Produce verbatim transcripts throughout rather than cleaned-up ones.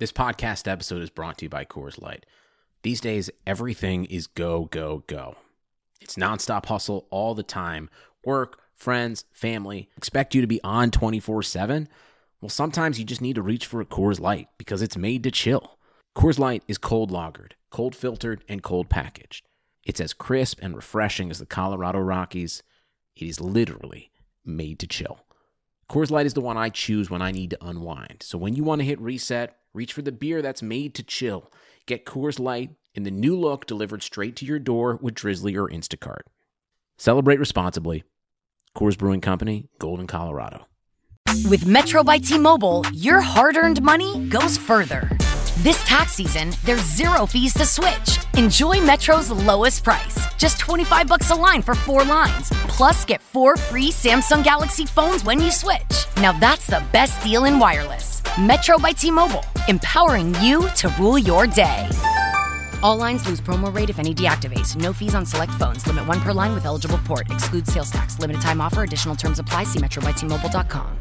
This podcast episode is brought to you by Coors Light. These days, everything is go, go, go. It's nonstop hustle all the time. Work, friends, family, expect you to be on twenty-four seven. Well, sometimes you just need to reach for a Coors Light because it's made to chill. Coors Light is cold lagered, cold filtered, and cold packaged. It's as crisp and refreshing as the Colorado Rockies. It is literally made to chill. Coors Light is the one I choose when I need to unwind. So when you want to hit reset, reach for the beer that's made to chill. Get Coors Light in the new look delivered straight to your door with Drizzly or Instacart. Celebrate responsibly. Coors Brewing Company, Golden, Colorado. With Metro by T-Mobile, your hard-earned money goes further. This tax season, there's zero fees to switch. Enjoy Metro's lowest price, just twenty-five bucks a line for four lines. Plus, get four free Samsung Galaxy phones when you switch. Now that's the best deal in wireless. Metro by T-Mobile, empowering you to rule your day. All lines lose promo rate if any deactivates. No fees on select phones. Limit one per line with eligible port. Excludes sales tax. Limited time offer. Additional terms apply. See metro by t mobile dot com.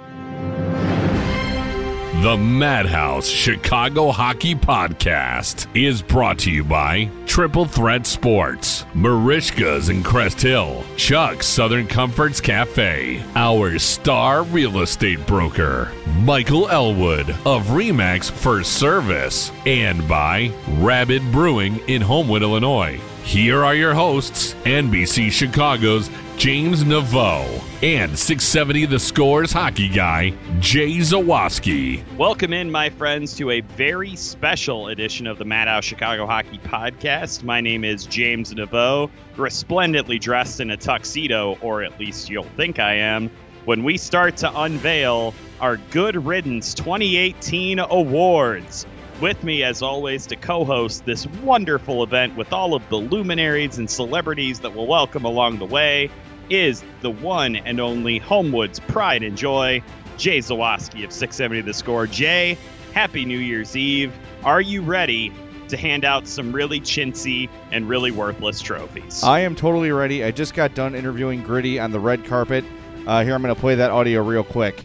The Madhouse Chicago Hockey Podcast is brought to you by Triple Threat Sports, Marishka's in Crest Hill, Chuck's Southern Comforts Cafe, our star real estate broker, Michael Elwood of Remax First Service, and by Rabid Brewing in Homewood, Illinois. Here are your hosts, N B C Chicago's James Naveau and six seventy The Score's hockey guy, Jay Zawaski. Welcome in, my friends, to a very special edition of the Madhouse Chicago Hockey Podcast. My name is James Naveau, resplendently dressed in a tuxedo, or at least you'll think I am, when we start to unveil our Good Riddance twenty eighteen awards. With me, as always, to co-host this wonderful event with all of the luminaries and celebrities that we'll welcome along the way is the one and only Homewood's pride and joy, Jay Zawaski of six seventy The Score. Jay, happy New Year's Eve. Are you ready to hand out some really chintzy and really worthless trophies? I am totally ready. I just got done interviewing Gritty on the red carpet. Uh, here, I'm going to play that audio real quick.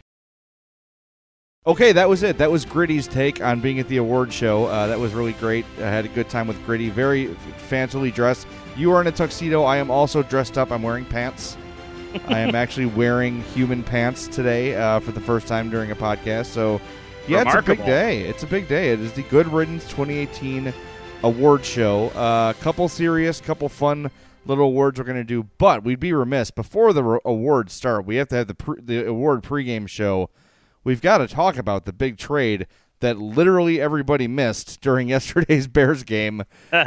Okay, that was it. That was Gritty's take on being at the award show. Uh, that was really great. I had a good time with Gritty. Very fancily dressed. You are in a tuxedo. I am also dressed up. I'm wearing pants. I am actually wearing human pants today uh, for the first time during a podcast. So, yeah, Remarkable. It's a big day. It's a big day. It is the Good Riddance twenty eighteen award show. A uh, couple serious, couple fun little awards we're going to do. But we'd be remiss. Before the re- awards start, we have to have the pre- the award pregame show. We've got to talk about the big trade that literally everybody missed during yesterday's Bears game.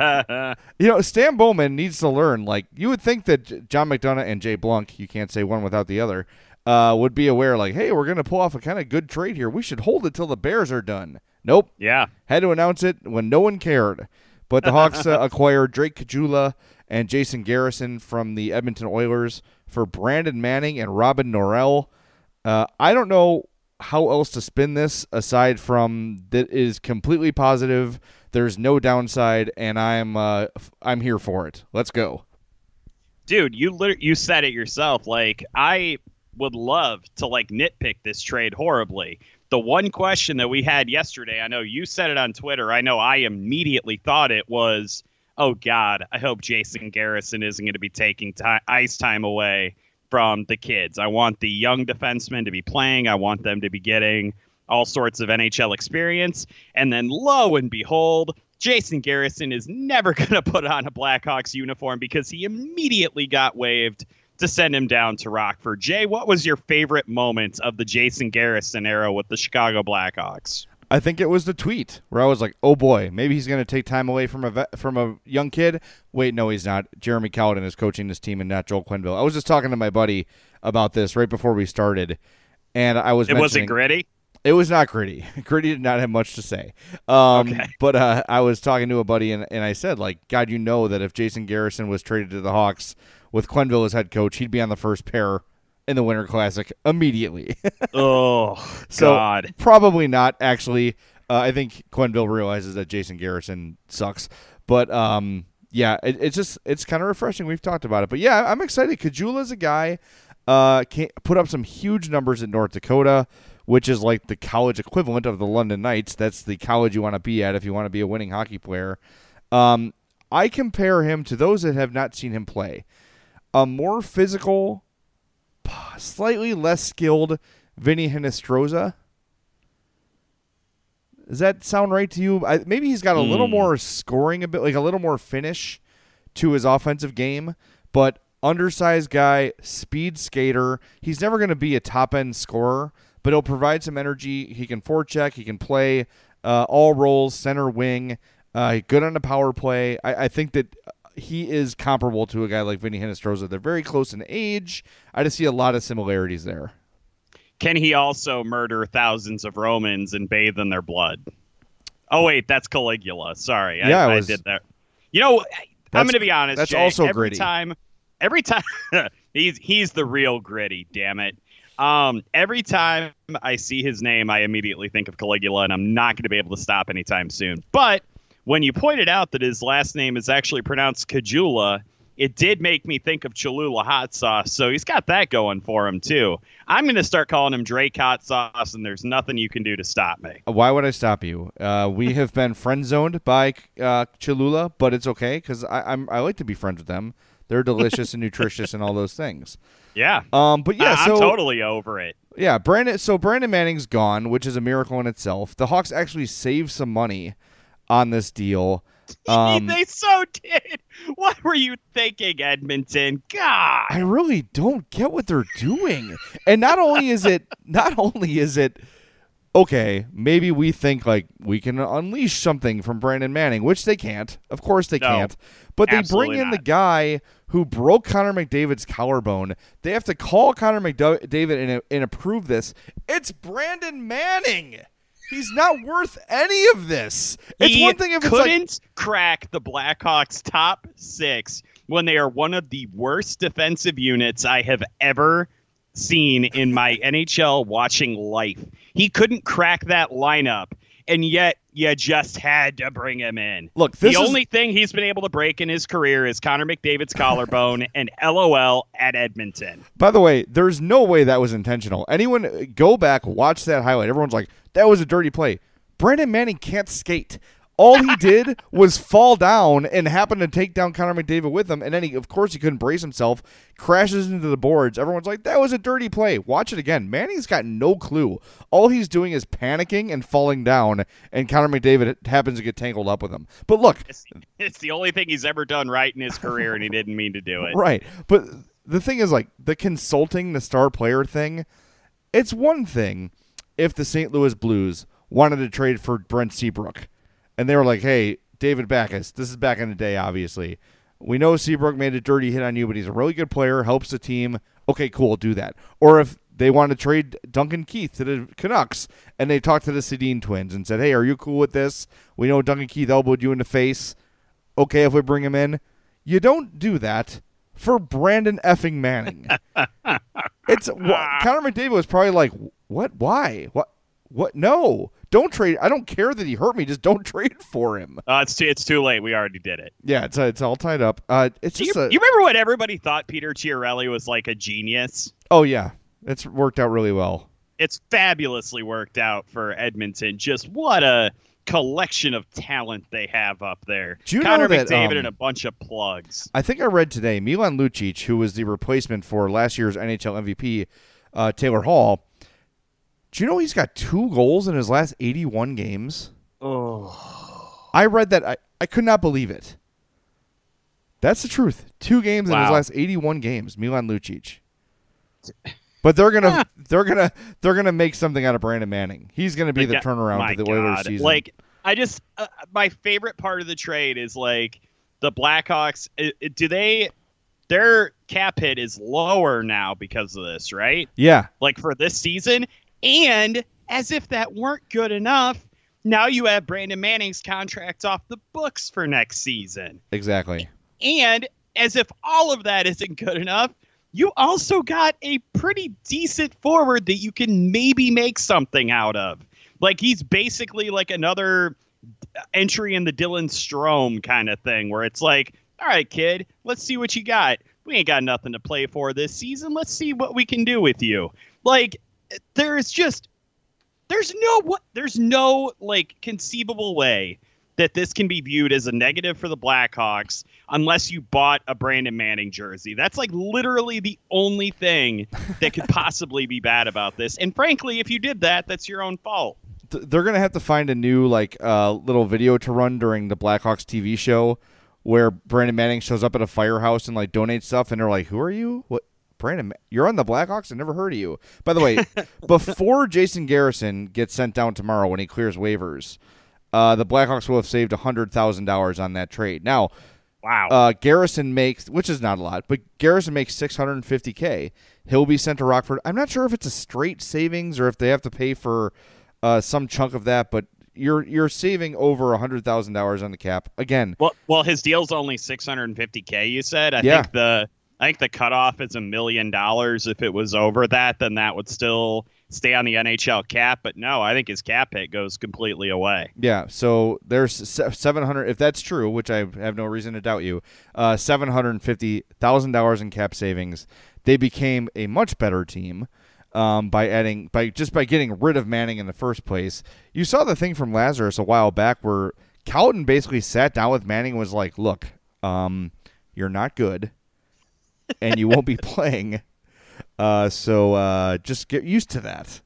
You know, Stan Bowman needs to learn. Like, you would think that John McDonough and Jay Blunk, you can't say one without the other, uh, would be aware, like, hey, we're going to pull off a kind of good trade here. We should hold it till the Bears are done. Nope. Yeah. Had to announce it when no one cared. But the Hawks uh, acquired Drake Caggiula and Jason Garrison from the Edmonton Oilers for Brandon Manning and Robin Norrell. Uh, I don't know how else to spin this aside from that is completely positive. There's no downside, and I'm uh, I'm here for it. Let's go, dude. You lit- you said it yourself. Like, I would love to like nitpick this trade horribly. The one question that we had yesterday, I know you said it on Twitter. I know I immediately thought it was, oh God, I hope Jason Garrison isn't going to be taking t- ice time away from the kids. I want the young defensemen to be playing. I want them to be getting all sorts of N H L experience. And then lo and behold, Jason Garrison is never going to put on a Blackhawks uniform because he immediately got waived to send him down to Rockford. Jay, what was your favorite moment of the Jason Garrison era with the Chicago Blackhawks? I think it was the tweet where I was like, oh boy, maybe he's going to take time away from a vet, from a young kid. Wait, no, he's not. Jeremy Colliton is coaching this team and not Joel Quenneville. I was just talking to my buddy about this right before we started, and I was It wasn't Gritty? It was not Gritty. Gritty did not have much to say. Um, okay. But uh, I was talking to a buddy, and, and I said, like, God, you know that if Jason Garrison was traded to the Hawks with Quenneville as head coach, he'd be on the first pair in the Winter Classic immediately. Oh, so God. Probably not, actually. Uh, I think Quenneville realizes that Jason Garrison sucks. But, um, yeah, it, it's just it's kind of refreshing. We've talked about it. But, yeah, I'm excited. Caggiula's a guy uh, can put up some huge numbers in North Dakota. which is like the college equivalent of the London Knights. That's the college you want to be at if you want to be a winning hockey player. Um, I compare him to those that have not seen him play. A more physical, slightly less skilled Vinny Hinostroza. Does that sound right to you? I, maybe he's got a mm. little more scoring, a bit like a little more finish to his offensive game, but undersized guy, speed skater. He's never going to be a top-end scorer, but he'll provide some energy. He can forecheck. He can play uh, all roles, center wing, uh, good on the power play. I, I think that he is comparable to a guy like Vinny Hinostroza. They're very close in age. I just see a lot of similarities there. Can he also murder thousands of Romans and bathe in their blood? Oh, wait, that's Caligula. Sorry, yeah, I, was, I did that. You know, I'm going to be honest, That's Jay, also every gritty. Time, every time, he's he's the real gritty, damn it. Um, every time I see his name, I immediately think of Caligula, and I'm not going to be able to stop anytime soon. But when you pointed out that his last name is actually pronounced Kajula, it did make me think of Cholula hot sauce, so he's got that going for him, too. I'm going to start calling him Drake hot sauce, and there's nothing you can do to stop me. Why would I stop you? Uh, we have been friend-zoned by uh, Cholula, but it's okay, because I'm I like to be friends with them. They're delicious and nutritious and all those things. Yeah. Um. But yeah, I- so I'm totally over it. Yeah, Brandon. So Brandon Manning's gone, which is a miracle in itself. The Hawks actually saved some money on this deal. Um, they so did. What were you thinking, Edmonton? God, I really don't get what they're doing. And not only is it, not only is it, okay, maybe we think like we can unleash something from Brandon Manning, which they can't. Of course they No, can't. But they bring in not. the guy who broke Connor McDavid's collarbone. They have to call Connor McDavid and, and approve this. It's Brandon Manning. He's not worth any of this. It's he one thing if it's couldn't like, crack the Blackhawks top six when they are one of the worst defensive units I have ever seen in my N H L watching life. He couldn't crack that lineup, and yet you just had to bring him in. Look, this the is, only thing he's been able to break in his career is Connor McDavid's collarbone and LOL at Edmonton. By the way, there's no way that was intentional. Anyone go back, watch that highlight. Everyone's like, that was a dirty play. Brandon Manning can't skate. All he did was fall down and happen to take down Connor McDavid with him. And then, he, of course, he couldn't brace himself, crashes into the boards. Everyone's like, that was a dirty play. Watch it again. Manning's got no clue. All he's doing is panicking and falling down, and Connor McDavid happens to get tangled up with him. But look. It's, it's the only thing he's ever done right in his career, and he didn't mean to do it. Right. But the thing is, like, the consulting the star player thing, it's one thing if the Saint Louis Blues wanted to trade for Brent Seabrook. And they were like, hey, David Backes, this is back in the day, obviously. We know Seabrook made a dirty hit on you, but he's a really good player, helps the team. Okay, cool, do that. Or if they want to trade Duncan Keith to the Canucks, and they talked to the Sedin twins and said, hey, are you cool with this? We know Duncan Keith elbowed you in the face. Okay, if we bring him in. You don't do that for Brandon effing Manning. It's wh- Connor McDavid was probably like, what? Why? What? What? No. Don't trade. I don't care that he hurt me. Just don't trade for him. Uh, it's too, it's too late. We already did it. Yeah, it's uh, it's all tied up. Uh, it's Do just you, a, you remember when everybody thought Peter Chiarelli was like a genius? Oh yeah, it's worked out really well. It's fabulously worked out for Edmonton. Just what a collection of talent they have up there. Do you Connor know that, McDavid um, and a bunch of plugs. I think I read today Milan Lucic, who was the replacement for last year's N H L M V P, uh, Taylor Hall. Do you know he's got two goals in his last eighty-one games? Oh, I read that. I, I could not believe it. That's the truth. Two games wow. in his last eighty-one games, Milan Lucic. But they're gonna they're gonna they're gonna make something out of Brandon Manning. He's gonna be the, the turnaround to the Oilers season. Like I just uh, my favorite part of the trade is like the Blackhawks. It, it, do they? Their cap hit is lower now because of this, right? Yeah. Like for this season. And as if that weren't good enough, now you have Brandon Manning's contract off the books for next season. Exactly. And as if all of that isn't good enough, you also got a pretty decent forward that you can maybe make something out of. Like he's basically like another entry in the Dylan Strome kind of thing where it's like, all right, kid, let's see what you got. We ain't got nothing to play for this season. Let's see what we can do with you. Like, there is just There's no what. There's no like conceivable way that this can be viewed as a negative for the Blackhawks unless you bought a Brandon Manning jersey. That's like literally the only thing that could possibly be bad about this. And frankly, if you did that, that's your own fault. They're going to have to find a new like uh, little video to run during the Blackhawks T V show where Brandon Manning shows up at a firehouse and like donates stuff. And they're like, who are you? What? Brandon, you're on the Blackhawks? I never heard of you. By the way, before Jason Garrison gets sent down tomorrow when he clears waivers, Uh, the Blackhawks will have saved one hundred thousand dollars on that trade. Now, wow. Uh, Garrison makes, which is not a lot, but Garrison makes six hundred fifty thousand dollars. He'll be sent to Rockford. I'm not sure if it's a straight savings or if they have to pay for uh, some chunk of that, but you're you're saving over one hundred thousand dollars on the cap. Again. Well, well, his deal's only six hundred fifty thousand, you said? I yeah. think the I think the cutoff is a million dollars. If it was over that, then that would still stay on the N H L cap. But no, I think his cap hit goes completely away. Yeah, so there's seven hundred. If that's true, which I have no reason to doubt you, uh, seven hundred fifty thousand dollars in cap savings. They became a much better team um, by adding by just by getting rid of Manning in the first place. You saw the thing from Lazarus a while back where Cowden basically sat down with Manning and was like, "Look, um, you're not good, and you won't be playing." Uh, so uh, just get used to that.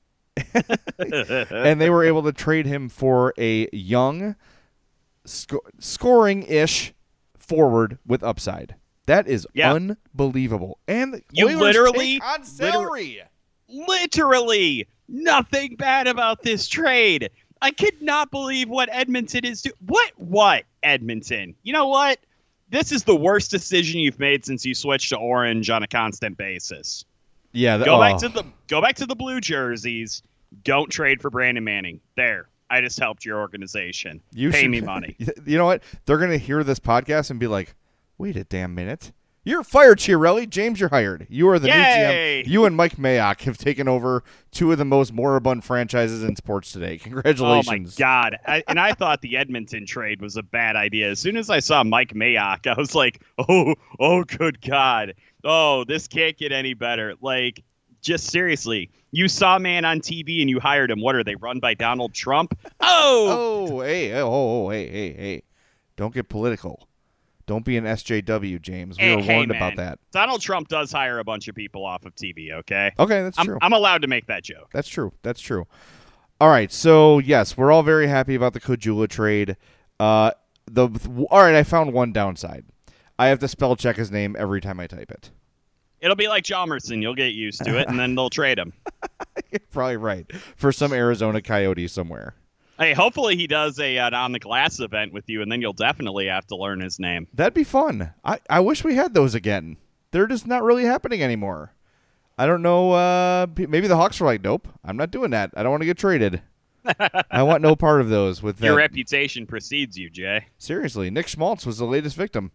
And they were able to trade him for a young, sc- scoring-ish forward with upside. That is yeah. unbelievable. And the you Oilers literally take on salary. Literally nothing bad about this trade. I could not believe what Edmonton is doing. What? What, Edmonton? You know what? This is the worst decision you've made since you switched to orange on a constant basis. Yeah, the, go oh. back to the go back to the blue jerseys. Don't trade for Brandon Manning. There, I just helped your organization. You Pay should, me money. You know what? They're gonna hear this podcast and be like, "Wait a damn minute! You're fired, Chiarelli. James, you're hired. You are the Yay! new G M. You and Mike Mayock have taken over two of the most moribund franchises in sports today. Congratulations!" Oh my God! I, and I thought the Edmonton trade was a bad idea. As soon as I saw Mike Mayock, I was like, "Oh, oh, good God! Oh, this can't get any better." Like, just seriously, you saw a man on T V and you hired him. What are they run by Donald Trump? Oh, oh, hey, oh, oh, hey, hey, hey! Don't get political. Don't be an S J W, James. We hey, were hey, warned man. about that. Donald Trump does hire a bunch of people off of T V, okay? Okay, that's I'm, true. I'm allowed to make that joke. That's true. That's true. All right, so, yes, we're all very happy about the Caggiula trade. Uh, the All right, I found one downside. I have to spell check his name every time I type it. It'll be like Chalmerson. You'll get used to it, and then they'll trade him. You're probably right. For some Arizona Coyote somewhere. Hey, hopefully he does a an on the glass event with you, and then you'll definitely have to learn his name. That'd be fun. I, I wish we had those again. They're just not really happening anymore. I don't know. Uh, maybe the Hawks were like, nope, I'm not doing that. I don't want to get traded. I want no part of those. With Your that. reputation precedes you, Jay. Seriously, Nick Schmaltz was the latest victim.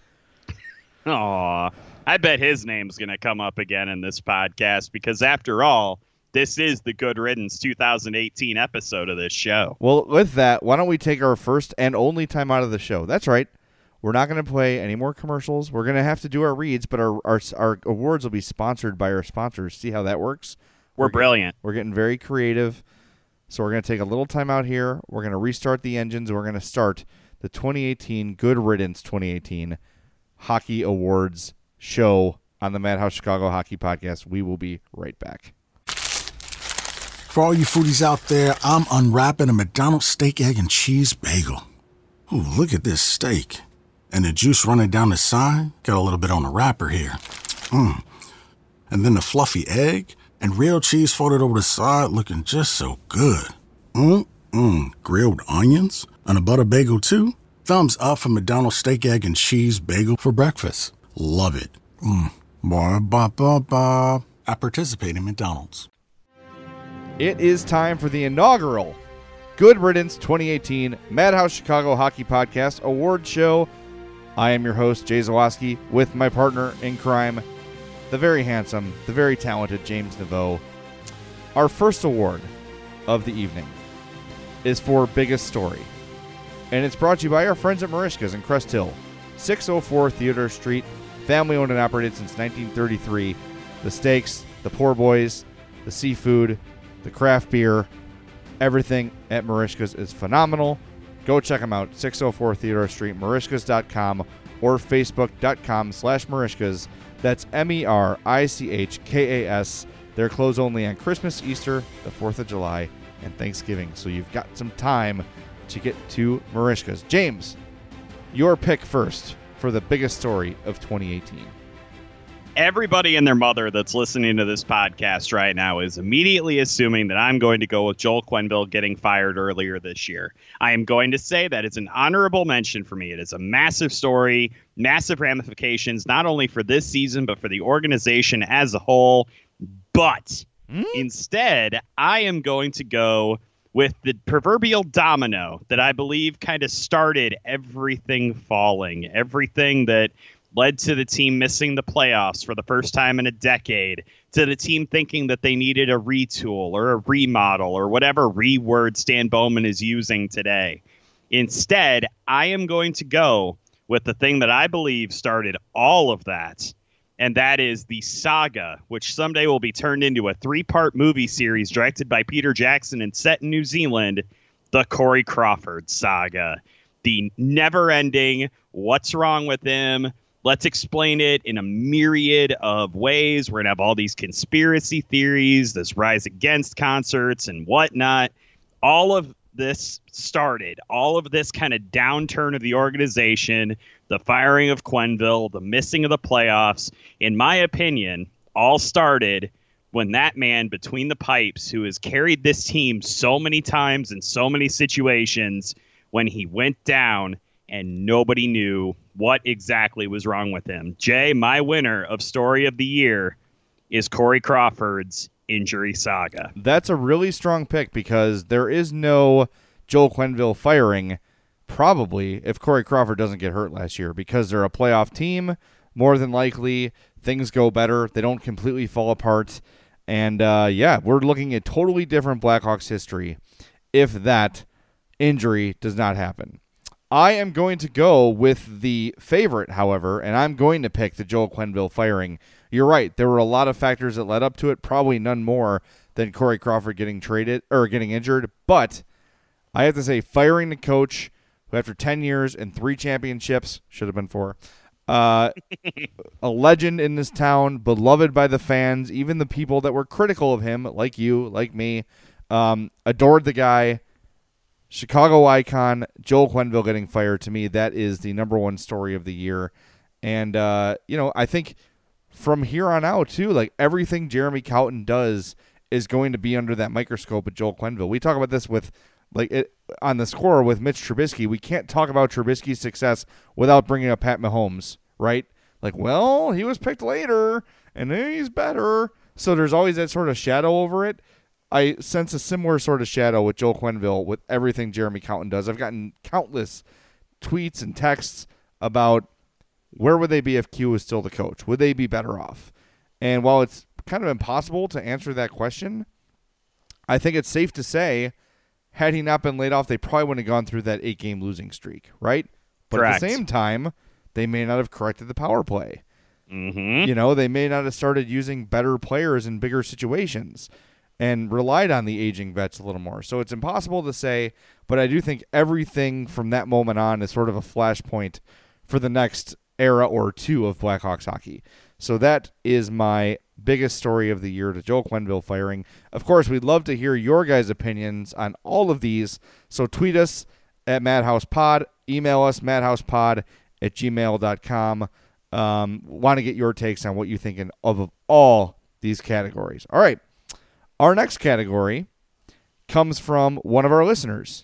Aw, I bet his name's going to come up again in this podcast because, after all, this is the Good Riddance two thousand eighteen episode of this show. Well, with that, why don't we take our first and only time out of the show? That's right. We're not going to play any more commercials. We're going to have to do our reads, but our, our our awards will be sponsored by our sponsors. See how that works? We're, we're Getting, brilliant. we're getting very creative. So we're going to take a little time out here. We're going to restart the engines. We're going to start the twenty eighteen Good Riddance twenty eighteen Hockey Awards show on the Madhouse Chicago Hockey Podcast. We will be right back. For all you foodies out there, I'm unwrapping a McDonald's steak, egg, and cheese bagel. Ooh, look at this steak. And the juice running down the side. Got a little bit on the wrapper here. Mmm. And then the fluffy egg and real cheese folded over the side looking just so good. Mmm-mmm. Grilled onions and a butter bagel too. Thumbs up for McDonald's steak, egg, and cheese bagel for breakfast. Love it. Mmm. Ba-ba-ba-ba. I participate in McDonald's. It is time for the inaugural Good Riddance twenty eighteen Madhouse Chicago Hockey Podcast Award Show. I am your host, Jay Zawaski, with my partner in crime, the very handsome, the very talented James Naveau. Our first award of the evening is for Biggest Story, and it's brought to you by our friends at Marishka's in Crest Hill, six oh four Theodore Street, family-owned and operated since nineteen thirty-three. The steaks, the poor boys, the seafood, the craft beer, Everything at Merichka's is phenomenal. Go check them out. six oh four Theodore Street, Merichkas dot com or Facebook.com slash Merichkas. That's M E R I C H K A S. They're closed only on Christmas, Easter, the fourth of July, and Thanksgiving. So you've got some time to get to Merichka's. James, your pick first for the biggest story of twenty eighteen. Everybody and their mother that's listening to this podcast right now is immediately assuming that I'm going to go with Joel Quenneville getting fired earlier this year. I am going to say that it's an honorable mention for me. It is a massive story, massive ramifications, not only for this season, but for the organization as a whole. But mm? instead, I am going to go with the proverbial domino that I believe kind of started everything falling, everything that led to the team missing the playoffs for the first time in a decade, to the team thinking that they needed a retool or a remodel or whatever re-word Stan Bowman is using today. Instead, I am going to go with the thing that I believe started all of that, and that is the saga, which someday will be turned into a three-part movie series directed by Peter Jackson and set in New Zealand, the Corey Crawford saga. The never-ending, what's wrong with him? Let's explain it in a myriad of ways. We're going to have all these conspiracy theories, this rise against concerts and whatnot. All of this started, all of this kind of downturn of the organization, the firing of Quenneville, the missing of the playoffs, in my opinion, all started when that man between the pipes, who has carried this team so many times in so many situations, when he went down and nobody knew what exactly was wrong with him. Jay, my winner of Story of the Year is Corey Crawford's injury saga. That's a really strong pick because there is no Joel Quenneville firing, probably, if Corey Crawford doesn't get hurt last year, because they're a playoff team. More than likely, things go better. They don't completely fall apart. And, uh, yeah, we're looking at totally different Blackhawks history if that injury does not happen. I am going to go with the favorite, however, and I'm going to pick the Joel Quenneville firing. You're right. There were a lot of factors that led up to it, probably none more than Corey Crawford getting traded or getting injured. But I have to say, firing the coach who, after ten years and three championships, should have been four, uh, a legend in this town, beloved by the fans, even the people that were critical of him, like you, like me, um, adored the guy. Chicago icon, Joel Quenneville getting fired, to me, that is the number one story of the year. And, uh, you know, I think from here on out, too, like everything Jeremy Colliton does is going to be under that microscope with Joel Quenneville. We talk about this with, like, it, on the score with Mitch Trubisky. We can't talk about Trubisky's success without bringing up Pat Mahomes, right? Like, well, he was picked later, and he's better. So there's always that sort of shadow over it. I sense a similar sort of shadow with Joel Quenneville with everything Jeremy Colliton does. I've gotten countless tweets and texts about where would they be if Q was still the coach? Would they be better off? And while it's kind of impossible to answer that question, I think it's safe to say, had he not been laid off, they probably wouldn't have gone through that eight-game losing streak, right? But Correct. At the same time, they may not have corrected the power play. Mm-hmm. You know, they may not have started using better players in bigger situations and relied on the aging vets a little more. So it's impossible to say, but I do think everything from that moment on is sort of a flashpoint for the next era or two of Blackhawks hockey. So that is my biggest story of the year, the Joel Quenneville firing. Of course, we'd love to hear your guys' opinions on all of these. So tweet us at MadhousePod, email us madhousepod at gmail dot com. Um, want to get your takes on what you think in, of, of all these categories. All right. Our next category comes from one of our listeners.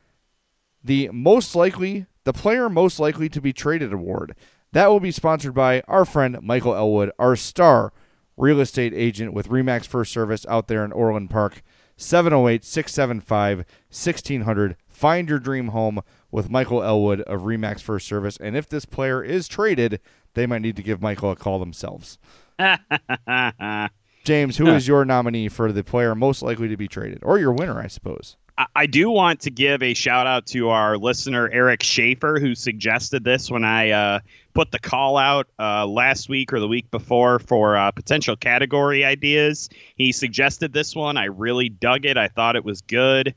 The most likely, the player most likely to be traded award. That will be sponsored by our friend Michael Elwood, our star real estate agent with RE/MAX First Service out there in Orland Park. seven oh eight, six seven five, one six zero zero. Find your dream home with Michael Elwood of RE/MAX First Service. And if this player is traded, they might need to give Michael a call themselves. James, who is your nominee for the player most likely to be traded? Or your winner, I suppose. I do want to give a shout out to our listener, Eric Schaefer, who suggested this when I uh, put the call out uh, last week or the week before for uh, potential category ideas. He suggested this one. I really dug it. I thought it was good.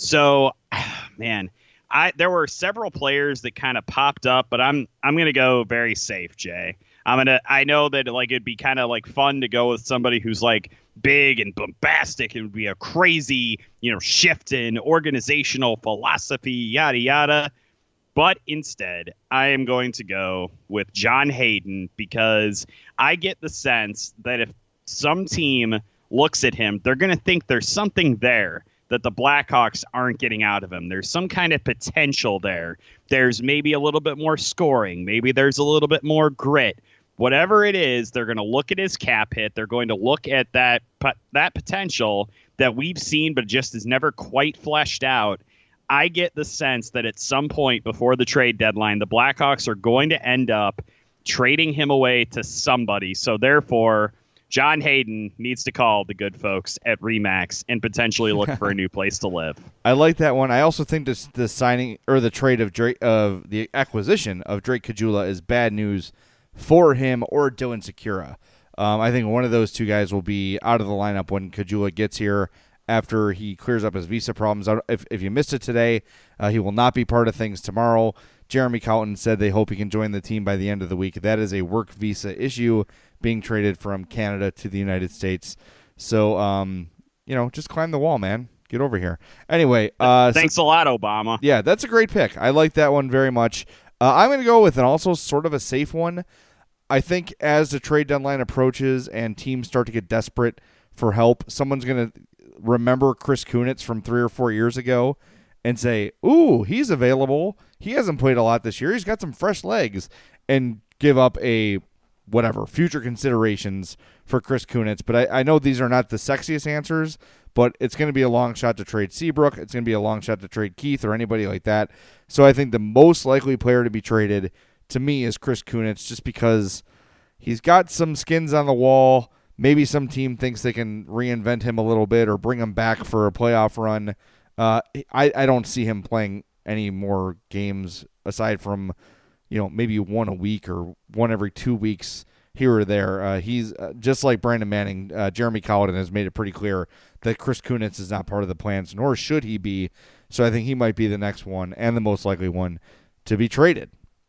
So, man, I there were several players that kind of popped up, but I'm I'm gonna go very safe, Jay. I'm gonna. I know that like it'd be kind of like fun to go with somebody who's like big and bombastic. It would be a crazy, you know, shift in organizational philosophy, yada yada. But instead, I am going to go with John Hayden because I get the sense that if some team looks at him, they're going to think there's something there that the Blackhawks aren't getting out of him. There's some kind of potential there. There's maybe a little bit more scoring. Maybe there's a little bit more grit. Whatever it is, they're going to look at his cap hit. They're going to look at that that potential that we've seen but just is never quite fleshed out. I get the sense that at some point before the trade deadline, the Blackhawks are going to end up trading him away to somebody. So therefore, John Hayden needs to call the good folks at Remax and potentially look for a new place to live. I like that one. I also think this the signing or the trade of Drake of the acquisition of Drake Caggiula is bad news for him or Dylan Sikura. Um, I think one of those two guys will be out of the lineup when Caggiula gets here after he clears up his visa problems. If, if you missed it today, uh, he will not be part of things tomorrow. Jeremy Colton said they hope he can join the team by the end of the week. That is a work visa issue, being traded from Canada to the United States. So, um, you know, just climb the wall, man. Get over here. Anyway. Uh, Thanks so, a lot, Obama. Yeah, that's a great pick. I like that one very much. Uh, I'm going to go with an also sort of a safe one. I think as the trade deadline approaches and teams start to get desperate for help, someone's going to remember Chris Kunitz from three or four years ago and say, ooh, he's available. He hasn't played a lot this year. He's got some fresh legs, and give up a whatever, future considerations for Chris Kunitz. But I, I know these are not the sexiest answers, but it's going to be a long shot to trade Seabrook. It's going to be a long shot to trade Keith or anybody like that. So I think the most likely player to be traded to me is Chris Kunitz, just because he's got some skins on the wall. Maybe some team thinks they can reinvent him a little bit or bring him back for a playoff run. Uh, I, I don't see him playing any more games aside from, you know, maybe one a week or one every two weeks here or there. Uh, he's uh, just like Brandon Manning. Uh, Jeremy Colliton has made it pretty clear that Chris Kunitz is not part of the plans, nor should he be. So I think he might be the next one and the most likely one to be traded.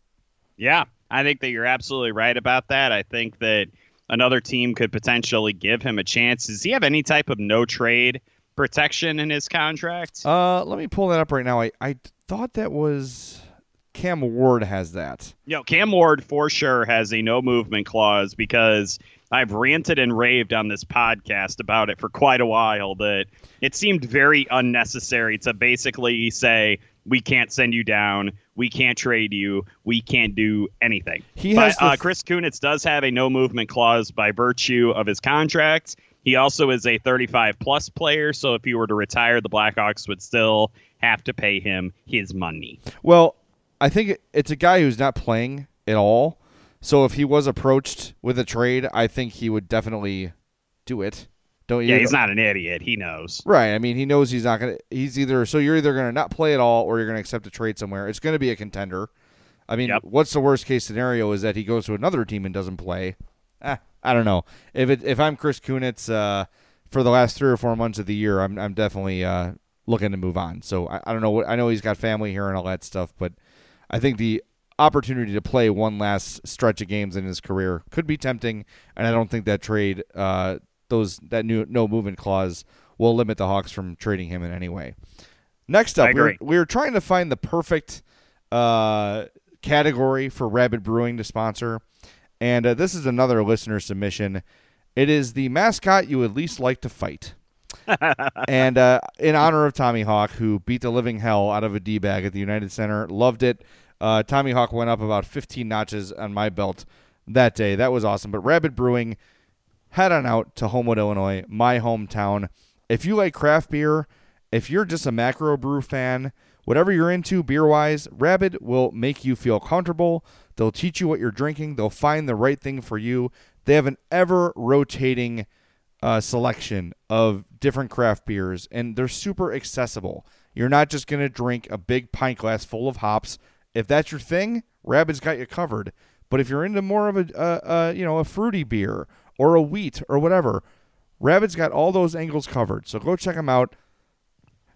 Yeah, I think that you're absolutely right about that. I think that another team could potentially give him a chance. Does he have any type of no trade protection in his contract? Uh, let me pull that up right now. I, I thought that was Cam Ward has that. You know, Cam Ward for sure has a no movement clause because I've ranted and raved on this podcast about it for quite a while that it seemed very unnecessary to basically say, we can't send you down, we can't trade you, we can't do anything. He but has the... uh, Chris Kunitz does have a no movement clause by virtue of his contract. He also is a thirty-five plus player, so if he were to retire, the Blackhawks would still have to pay him his money. Well, I think it's a guy who's not playing at all. So if he was approached with a trade, I think he would definitely do it. Don't you? Yeah, he's not an idiot. He knows. Right. I mean, he knows he's not going to. He's either so you're either going to not play at all, or you're going to accept a trade somewhere. It's going to be a contender. I mean, yep. What's the worst case scenario is that he goes to another team and doesn't play. Eh, I don't know. If it if I'm Chris Kunitz uh, for the last three or four months of the year, I'm I'm definitely uh, looking to move on. So I, I don't know. What I know he's got family here and all that stuff, but I think the opportunity to play one last stretch of games in his career could be tempting, and I don't think that trade. Uh, Those that new no movement clause will limit the Hawks from trading him in any way. Next up, we're, we're trying to find the perfect uh, category for Rabid Brewing to sponsor, and uh, this is another listener submission. It is the mascot you would least like to fight. And uh, in honor of Tommy Hawk, who beat the living hell out of a D-bag at the United Center, loved it. Uh, Tommy Hawk went up about fifteen notches on my belt that day. That was awesome. But Rabid Brewing, head on out to Homewood, Illinois, my hometown. If you like craft beer, if you're just a macro brew fan, whatever you're into beer-wise, Rabid will make you feel comfortable. They'll teach you what you're drinking. They'll find the right thing for you. They have an ever-rotating uh, selection of different craft beers, and they're super accessible. You're not just going to drink a big pint glass full of hops. If that's your thing, Rabid's got you covered. But if you're into more of a, a, a you know, a fruity beer or a wheat or whatever, Rabid's got all those angles covered. So go check them out.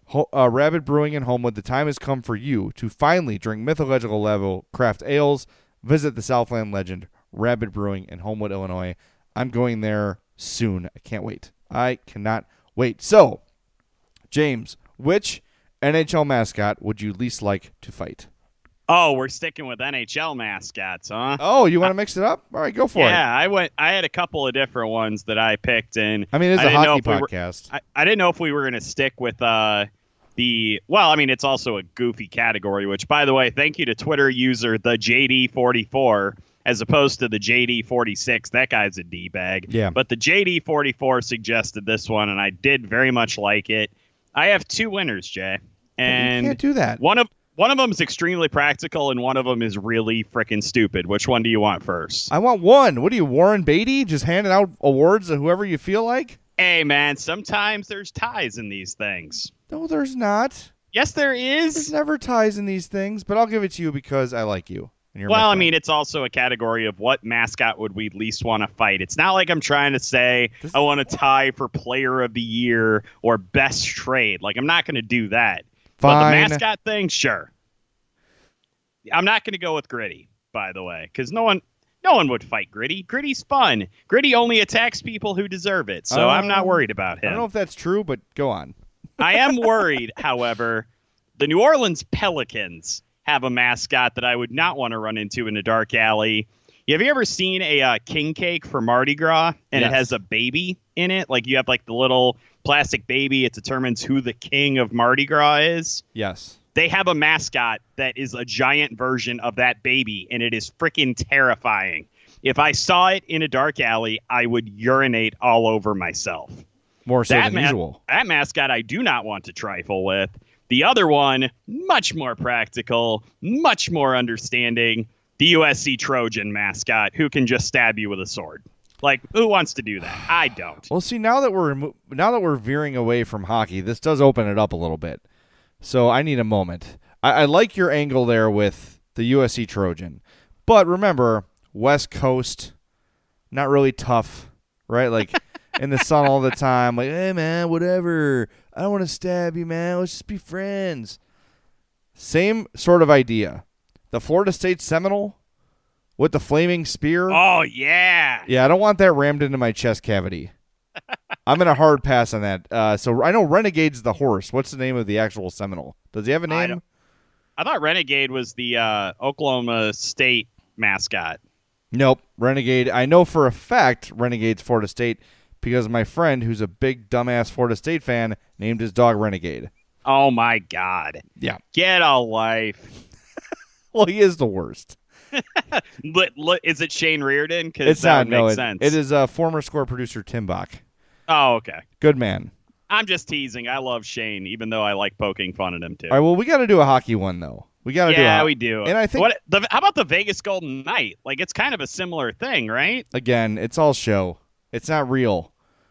Ho- uh, Rabid Brewing in Homewood, the time has come for you to finally drink mythological level craft ales. Visit the Southland legend, Rabid Brewing in Homewood, Illinois. I'm going there soon. I can't wait. I cannot wait. So, James, which N H L mascot would you least like to fight? Oh, we're sticking with N H L mascots, huh? Oh, you want to mix it up? All right, go for yeah, it. Yeah, I went. I had a couple of different ones that I picked, and I mean, it's I a didn't know hockey if we were- podcast. I, I didn't know if we were going to stick with uh, the. Well, I mean, it's also a goofy category. Which, by the way, thank you to Twitter user the J D forty-four as opposed to the J D forty-six. That guy's a d bag. Yeah. But the J D forty-four suggested this one, and I did very much like it. I have two winners, Jay, and you can't do that. one of one of them is extremely practical, and one of them is really freaking stupid. Which one do you want first? I want one. What are you, Warren Beatty? Just handing out awards to whoever you feel like? Hey, man, sometimes there's ties in these things. No, there's not. Yes, there There's is. never ties in these things, but I'll give it to you because I like you. And you're my Well, I friend. mean, it's also a category of what mascot would we least want to fight. It's not like I'm trying to say This- I want to tie for player of the year or best trade. Like, I'm not going to do that. But Fine. the mascot thing, sure. I'm not going to go with Gritty, by the way, because no one, no one would fight Gritty. Gritty's fun. Gritty only attacks people who deserve it, so I'm not Um, worried about I him. don't know if that's true, but go on. I am worried, however, the New Orleans Pelicans have a mascot that I would not want to run into in a dark alley. Have you ever seen a uh, king cake for Mardi Gras and Yes. it has a baby in it? Like you have like the little plastic baby. It determines who the king of Mardi Gras is. Yes. They have a mascot that is a giant version of that baby, and it is freaking terrifying. If I saw it in a dark alley, I would urinate all over myself. More so That, than ma- usual. that mascot I do not want to trifle with. The other one, much more practical, much more understanding, the U S C Trojan mascot who can just stab you with a sword. Like, who wants to do that? I don't. Well, see, now that we're remo- now that we're veering away from hockey, this does open it up a little bit. So I need a moment. I, I like your angle there with the U S C Trojan, but remember, West Coast, not really tough, right? Like in the sun all the time. Like, hey man, whatever. I don't want to stab you, man. Let's just be friends. Same sort of idea. The Florida State Seminole with the flaming spear. Oh, yeah. Yeah, I don't want that rammed into my chest cavity. I'm in a hard pass on that. Uh, so I know Renegade's the horse. What's the name of the actual Seminole? Does he have a I name? don't- I thought Renegade was the uh, Oklahoma State mascot. Nope. Renegade. I know for a fact Renegade's Florida State because my friend, who's a big dumbass Florida State fan, named his dog Renegade. Oh, my God. Yeah. Get a life. Well, he is the worst. But, look, is it Shane Reardon? Because It's that not. would make No, it, sense. it is uh, former score producer Tim Bach. Oh, okay. Good man. I'm just teasing. I love Shane, even though I like poking fun at him too. All right. Well, we got to do a hockey one though. We got to do. yeah, a, we do. And I think what, the, how about the Vegas Golden Knight? Like, it's kind of a similar thing, right? again, it's all show. It's not real.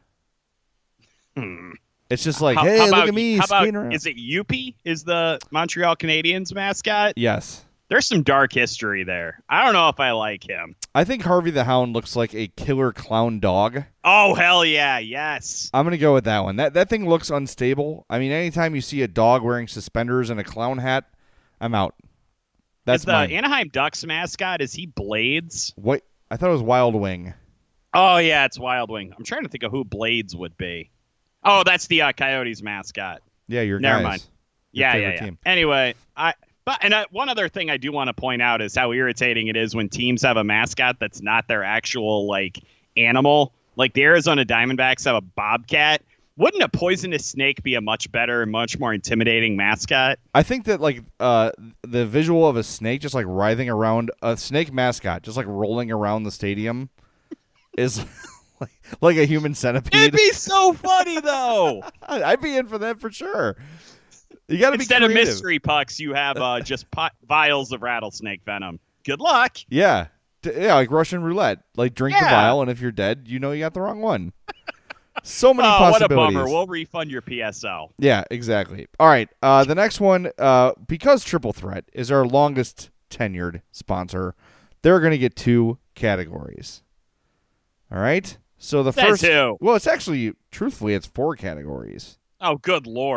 Hmm. It's just like, How- hey, how look about- at me how skating about, around. Is it Yuppie? Is the Montreal Canadiens mascot? Yes. There's some dark history there. I don't know if I like him. I think Harvey the Hound looks like a killer clown dog. Oh, hell yeah. Yes. I'm going to go with that one. That that thing looks unstable. I mean, anytime you see a dog wearing suspenders and a clown hat, I'm out. That's is the mine. Anaheim Ducks mascot, is he Blades? What? I thought it was Wild Wing. Oh, yeah, it's Wild Wing. I'm trying to think of who Blades would be. Oh, that's the uh, Coyotes mascot. Yeah, your Never guys. mind. Your Yeah, favorite yeah, yeah. team. Anyway, I but and uh, one other thing I do want to point out is how irritating it is when teams have a mascot that's not their actual like animal. Like the Arizona Diamondbacks have a bobcat. Wouldn't a poisonous snake be a much better and much more intimidating mascot? I think that like uh, the visual of a snake just like writhing around a snake mascot, just like rolling around the stadium, is like, like a human centipede. It'd be so funny though. I'd be in for that for sure. You got to be Instead of creative. mystery pucks, you have uh, just pot- vials of rattlesnake venom. Good luck. Yeah, D- yeah, like Russian roulette. Like drink the Yeah. vial, and if you're dead, you know you got the wrong one. So many Oh, what a possibilities. bummer. We'll refund your P S L. Yeah, exactly. All right, uh, the next one, uh, because Triple Threat is our longest tenured sponsor, they're going to get two categories. All right. So the Says first, who? well, it's actually, truthfully, it's four categories. Oh, good Lord. We're,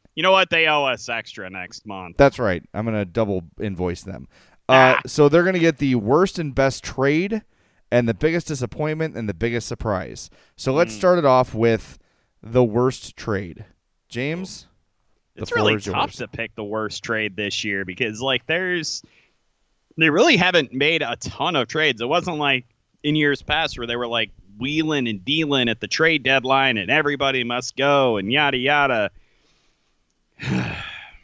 You know what? They owe us extra next month. That's right. I'm going to double invoice them. Ah. Uh, so they're going to get the worst and best trade and the biggest disappointment and the biggest surprise. So let's Mm. start it off with the worst trade. James? the It's floor really is tough yours. to pick the worst trade this year because, like, there's they really haven't made a ton of trades. It wasn't like in years past where they were like wheeling and dealing at the trade deadline and everybody must go and yada yada. I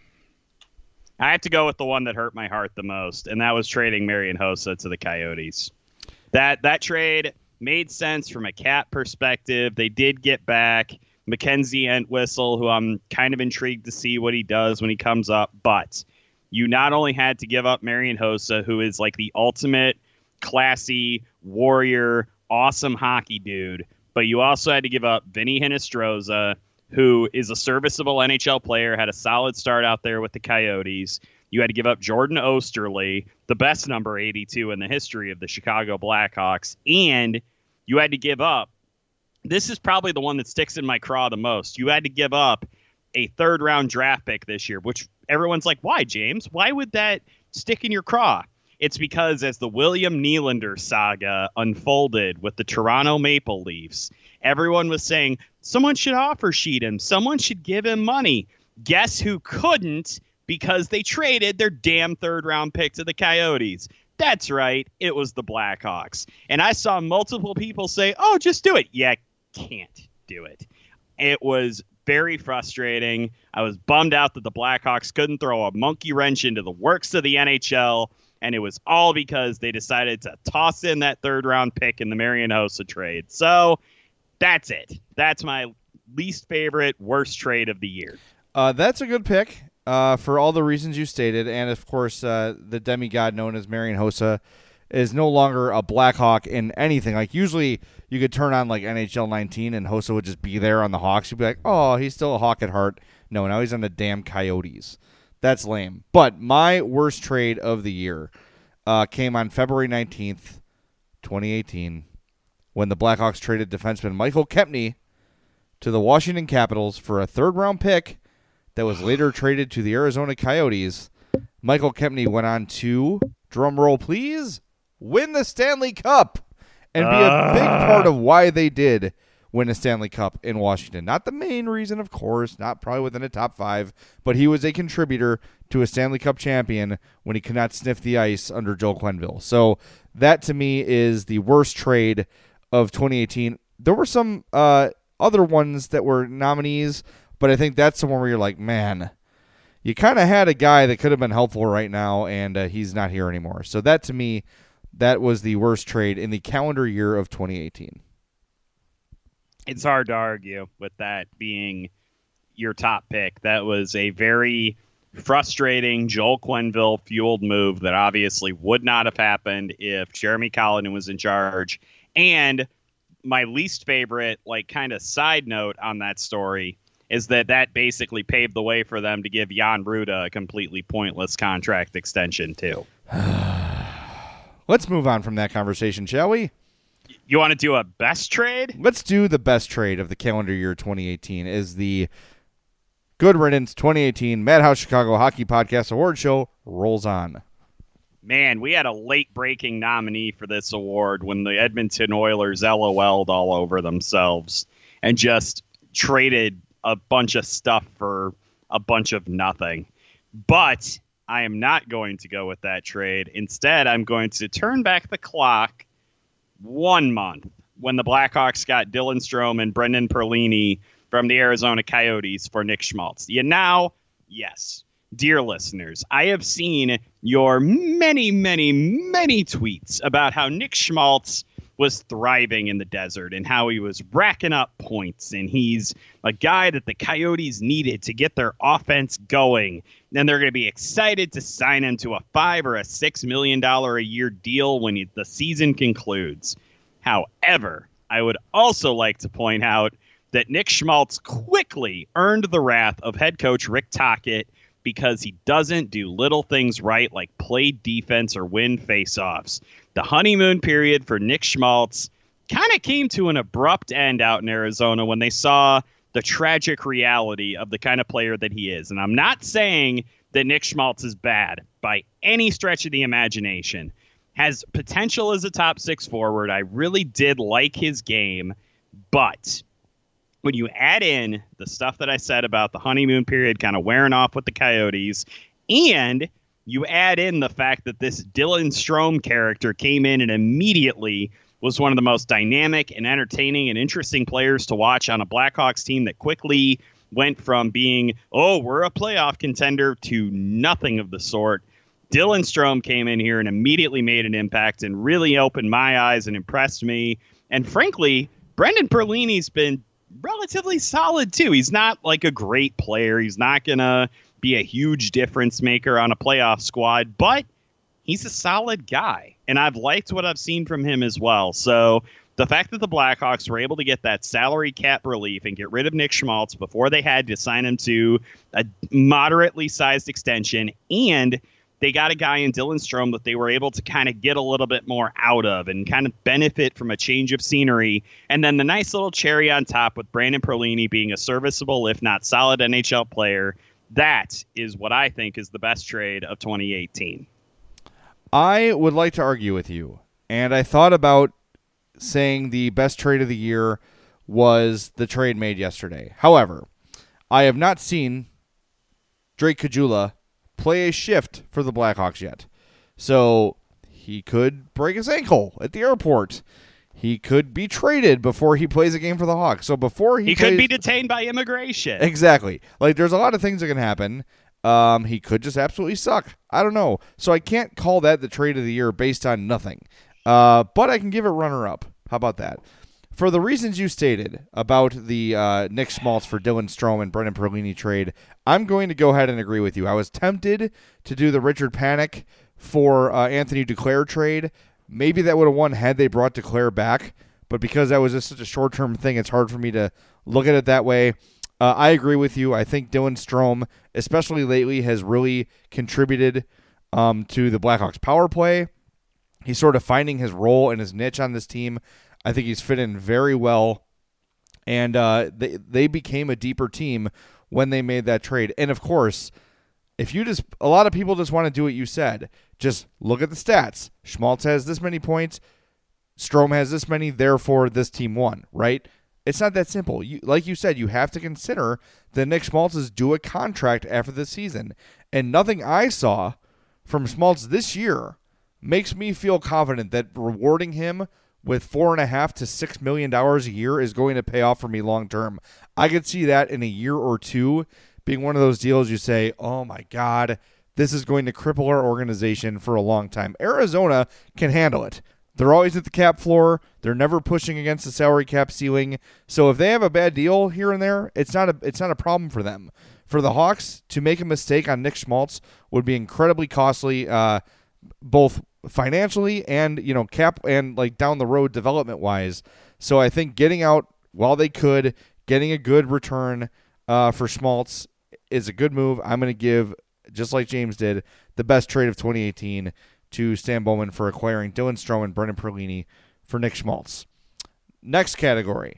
have to go with the one that hurt my heart the most, and that was trading Marian Hossa to the Coyotes. That that trade made sense from a cap perspective. They did get back Mackenzie Entwistle, who I'm kind of intrigued to see what he does when he comes up. But you not only had to give up Marian Hossa, who is like the ultimate classy warrior, awesome hockey dude, but you also had to give up Vinny Hinostroza, who is a serviceable N H L player, had a solid start out there with the Coyotes. You had to give up Jordan Osterley, the best number eighty-two in the history of the Chicago Blackhawks. And you had to give up, this is probably the one that sticks in my craw the most, you had to give up a third-round draft pick this year, which everyone's like, why, James? Why would that stick in your craw? It's because as the William Nylander saga unfolded with the Toronto Maple Leafs, everyone was saying, someone should offer sheet him. Someone should give him money. Guess who couldn't? Because they traded their damn third-round pick to the Coyotes. That's right. It was the Blackhawks. And I saw multiple people say, oh, just do it. Yeah, can't do it. It was very frustrating. I was bummed out that the Blackhawks couldn't throw a monkey wrench into the works of the N H L. And it was all because they decided to toss in that third-round pick in the Marian Hossa trade. So that's it. That's my least favorite, worst trade of the year. Uh, that's a good pick uh, for all the reasons you stated. And, of course, uh, the demigod known as Marian Hossa is no longer a Blackhawk in anything. Like, usually you could turn on, like, N H L nineteen and Hossa would just be there on the Hawks. You'd be like, oh, he's still a Hawk at heart. No, now he's on the damn Coyotes. That's lame. But my worst trade of the year uh, came on February nineteenth, twenty eighteen, when the Blackhawks traded defenseman Michael Kempny to the Washington Capitals for a third-round pick that was later traded to the Arizona Coyotes. Michael Kempny went on to, drum roll please, win the Stanley Cup and be a big part of why they did win a Stanley Cup in Washington. Not the main reason, of course, not probably within the top five, but he was a contributor to a Stanley Cup champion when he could not sniff the ice under Joel Quenneville. So that, to me, is the worst trade of twenty eighteen. There were some uh, other ones that were nominees, but I think that's the one where you're like, man, you kind of had a guy that could have been helpful right now, and uh, he's not here anymore. So that, to me, that was the worst trade in the calendar year of twenty eighteen. It's hard to argue with that being your top pick. That was a very frustrating Joel Quenneville fueled move that obviously would not have happened if Jeremy Colliton was in charge. And my least favorite, like, kind of side note on that story is that that basically paved the way for them to give Jan Ruda a completely pointless contract extension too. Let's move on from that conversation, shall we? You want to do a best trade? Let's do the best trade of the calendar year twenty eighteen is the Good Riddance twenty eighteen Madhouse Chicago Hockey Podcast Award Show rolls on. Man, we had a late-breaking nominee for this award when the Edmonton Oilers LOL'd all over themselves and just traded a bunch of stuff for a bunch of nothing. But I am not going to go with that trade. Instead, I'm going to turn back the clock one month when the Blackhawks got Dylan Strome and Brendan Perlini from the Arizona Coyotes for Nick Schmaltz. You now, yes. Dear listeners, I have seen your many, many, many tweets about how Nick Schmaltz was thriving in the desert and how he was racking up points and he's a guy that the Coyotes needed to get their offense going. Then they're going to be excited to sign him to a five or a six million dollar a year deal when he, the season concludes. However, I would also like to point out that Nick Schmaltz quickly earned the wrath of head coach Rick Tocchet because he doesn't do little things right like play defense or win faceoffs. The honeymoon period for Nick Schmaltz kind of came to an abrupt end out in Arizona when they saw the tragic reality of the kind of player that he is. And I'm not saying that Nick Schmaltz is bad by any stretch of the imagination. Has potential as a top six forward. I really did like his game, but when you add in the stuff that I said about the honeymoon period kind of wearing off with the Coyotes, and you add in the fact that this Dylan Strome character came in and immediately was one of the most dynamic and entertaining and interesting players to watch on a Blackhawks team that quickly went from being, oh, we're a playoff contender, to nothing of the sort. Dylan Strome came in here and immediately made an impact and really opened my eyes and impressed me. And frankly, Brendan Perlini's been relatively solid too. He's not like a great player. He's not going to be a huge difference maker on a playoff squad, but he's a solid guy. And I've liked what I've seen from him as well. So the fact that the Blackhawks were able to get that salary cap relief and get rid of Nick Schmaltz before they had to sign him to a moderately sized extension, and they got a guy in Dylan Strome that they were able to kind of get a little bit more out of and kind of benefit from a change of scenery. And then the nice little cherry on top with Brandon Perlini being a serviceable, if not solid N H L player. That is what I think is the best trade of twenty eighteen. I would like to argue with you. And I thought about saying the best trade of the year was the trade made yesterday. However, I have not seen Drake Caggiula play a shift for the Blackhawks yet. So he could break his ankle at the airport. He could be traded before he plays a game for the Hawks. So before he He plays, could be detained by immigration. Exactly. Like, there's a lot of things that can happen. Um, he could just absolutely suck. I don't know. So I can't call that the trade of the year based on nothing. Uh, but I can give it runner-up. How about that? For the reasons you stated about the uh, Nick Schmaltz for Dylan Strome and Brendan Perlini trade, I'm going to go ahead and agree with you. I was tempted to do the Richard Panik for uh, Anthony Duclair trade. Maybe that would have won had they brought Duclair back, but because that was just such a short-term thing, it's hard for me to look at it that way. Uh, I agree with you. I think Dylan Strome, especially lately, has really contributed um, to the Blackhawks' power play. He's sort of finding his role and his niche on this team. I think he's fit in very well, and uh, they they became a deeper team when they made that trade. And of course, if you just a lot of people just want to do what you said. Just look at the stats. Schmaltz has this many points. Strome has this many. Therefore, this team won. Right? It's not that simple. You, like you said, you have to consider that Nick Schmaltz is due a contract after the season, and nothing I saw from Schmaltz this year makes me feel confident that rewarding him with four and a half to six million dollars a year is going to pay off for me long term. I could see that in a year or two being one of those deals you say, oh my God, this is going to cripple our organization for a long time. Arizona can handle it. They're always at the cap floor. They're never pushing against the salary cap ceiling. So if they have a bad deal here and there, it's not a it's not a problem for them. For the Hawks to make a mistake on Nick Schmaltz would be incredibly costly, uh, both financially and, you know, cap and like down the road development wise. So I think getting out while they could, getting a good return uh, for Schmaltz is a good move. I'm going to give, just like James did, the best trade of twenty eighteen to Stan Bowman for acquiring Dylan Strome and Brendan Perlini for Nick Schmaltz. Next category,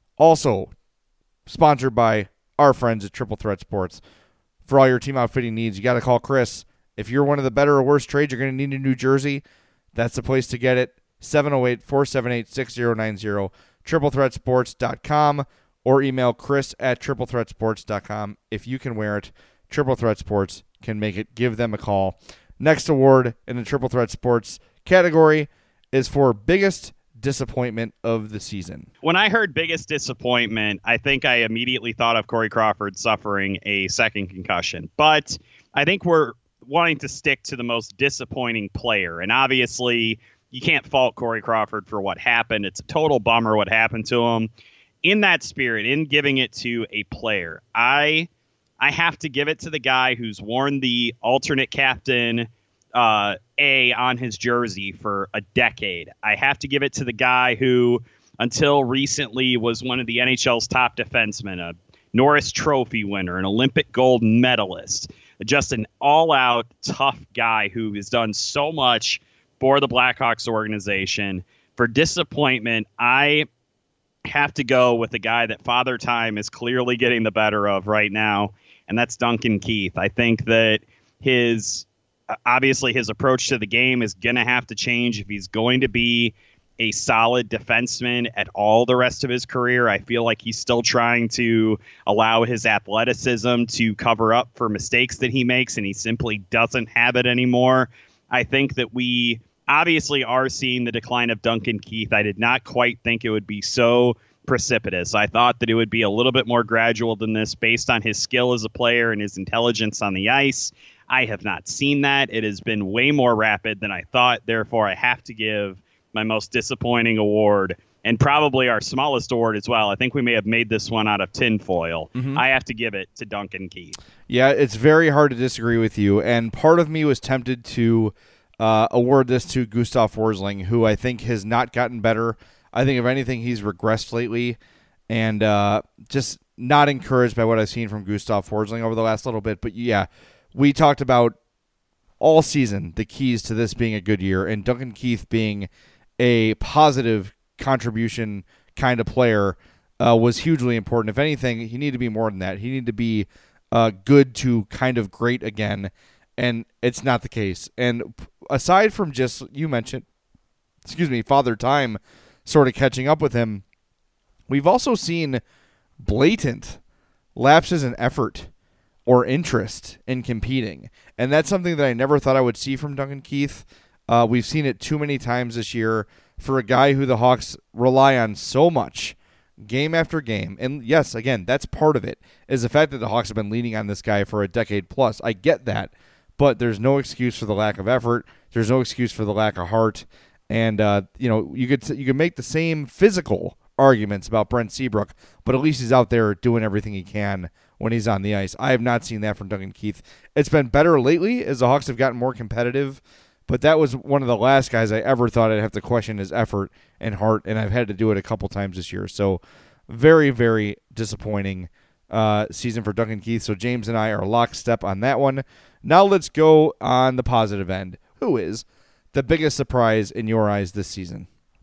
also sponsored by our friends at Triple Threat Sports. For all your team outfitting needs, you got to call Chris. If you're one of the better or worse trades, you're going to need a New Jersey. That's the place to get it. seven oh eight, four seven eight, six oh nine oh, triple threat sports dot com, or email Chris at triple threat sports dot com. If you can wear it, Triple Threat Sports can make it. Give them a call. Next award in the Triple Threat Sports category is for biggest disappointment of the season. When I heard biggest disappointment, I think I immediately thought of Corey Crawford suffering a second concussion. But I think we're wanting to stick to the most disappointing player. And obviously, you can't fault Corey Crawford for what happened. It's a total bummer what happened to him. In that spirit, in giving it to a player, I I have to give it to the guy who's worn the alternate captain uh, A on his jersey for a decade. I have to give it to the guy who, until recently, was one of the N H L's top defensemen, a Norris Trophy winner, an Olympic gold medalist, just an all-out tough guy who has done so much for the Blackhawks organization. For disappointment, I have to go with the guy that Father Time is clearly getting the better of right now, and that's Duncan Keith. I think that his obviously his approach to the game is going to have to change if he's going to be a solid defenseman at all the rest of his career. I feel like he's still trying to allow his athleticism to cover up for mistakes that he makes, and he simply doesn't have it anymore. I think that we obviously are seeing the decline of Duncan Keith. I did not quite think it would be so precipitous. I thought that it would be a little bit more gradual than this based on his skill as a player and his intelligence on the ice. I have not seen that. It has been way more rapid than I thought. Therefore, I have to give my most disappointing award, and probably our smallest award as well. I think we may have made this one out of tinfoil. Mm-hmm. I have to give it to Duncan Keith. Yeah, it's very hard to disagree with you, and part of me was tempted to uh, award this to Gustav Forsling, who I think has not gotten better. I think, if anything, he's regressed lately, and uh, just not encouraged by what I've seen from Gustav Forsling over the last little bit. But yeah, we talked about all season the keys to this being a good year, and Duncan Keith being a positive contribution kind of player uh, was hugely important. If anything, he needed to be more than that. He needed to be uh, good to kind of great again, and it's not the case. And aside from just, you mentioned, excuse me, Father Time sort of catching up with him, we've also seen blatant lapses in effort or interest in competing. And that's something that I never thought I would see from Duncan Keith. Uh, we've seen it too many times this year for a guy who the Hawks rely on so much game after game. And yes, again, that's part of it, is the fact that the Hawks have been leaning on this guy for a decade plus. I get that, but there's no excuse for the lack of effort. There's no excuse for the lack of heart. And, uh, you know, you could you could make the same physical arguments about Brent Seabrook, but at least he's out there doing everything he can when he's on the ice. I have not seen that from Duncan Keith. It's been better lately as the Hawks have gotten more competitive, but that was one of the last guys I ever thought I'd have to question his effort and heart, and I've had to do it a couple times this year. So very, very disappointing uh, season for Duncan Keith. So James and I are lockstep on that one. Now let's go on the positive end. Who is the biggest surprise in your eyes this season?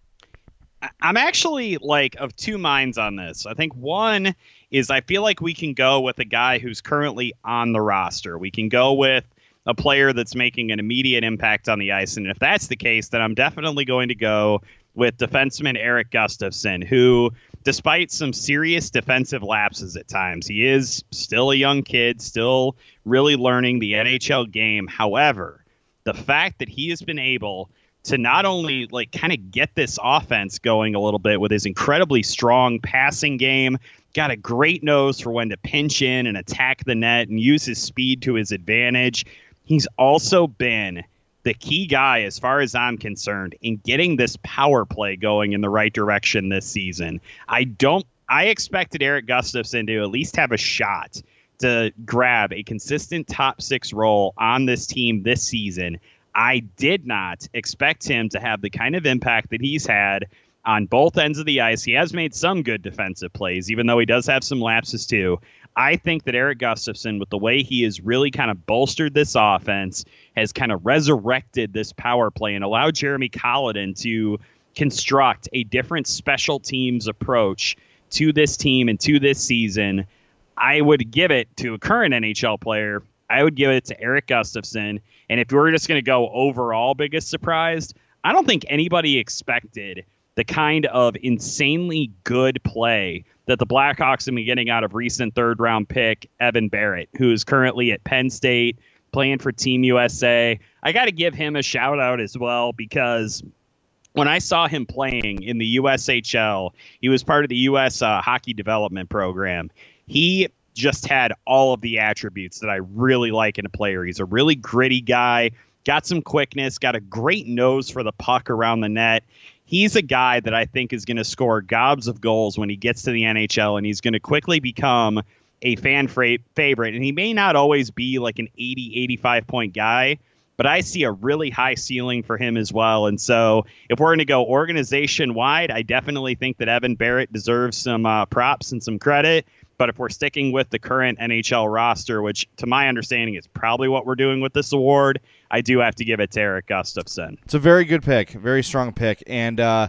I'm actually like of two minds on this. I think one is I feel like we can go with a guy who's currently on the roster. We can go with a player that's making an immediate impact on the ice. And if that's the case, then I'm definitely going to go with defenseman Erik Gustafsson, who, despite some serious defensive lapses at times, he is still a young kid, still really learning the N H L game. However, the fact that he has been able to not only like kind of get this offense going a little bit with his incredibly strong passing game, got a great nose for when to pinch in and attack the net and use his speed to his advantage. He's also been the key guy, as far as I'm concerned, in getting this power play going in the right direction this season. I don't, I expected Erik Gustafsson to at least have a shot to grab a consistent top six role on this team this season. I did not expect him to have the kind of impact that he's had on both ends of the ice. He has made some good defensive plays, even though he does have some lapses too. I think that Erik Gustafsson, with the way he has really kind of bolstered this offense, has kind of resurrected this power play and allowed Jeremy Colliton to construct a different special teams approach to this team and to this season. I would give it to a current N H L player. I would give it to Erik Gustafsson. And if we're just going to go overall biggest surprise, I don't think anybody expected the kind of insanely good play that the Blackhawks have been getting out of recent third round pick Evan Barrett, who is currently at Penn State playing for Team U S A. I got to give him a shout out as well, because when I saw him playing in the U S H L, he was part of the U S uh, hockey development program. He just had all of the attributes that I really like in a player. He's a really gritty guy, got some quickness, got a great nose for the puck around the net. He's a guy that I think is going to score gobs of goals when he gets to the N H L, and he's going to quickly become a fan fra- favorite. And he may not always be like an eighty, eighty-five point guy, but I see a really high ceiling for him as well. And so if we're going to go organization wide, I definitely think that Evan Barrett deserves some uh, props and some credit. But if we're sticking with the current N H L roster, which to my understanding is probably what we're doing with this award, I do have to give it to Erik Gustafsson. It's a very good pick, very strong pick. And uh,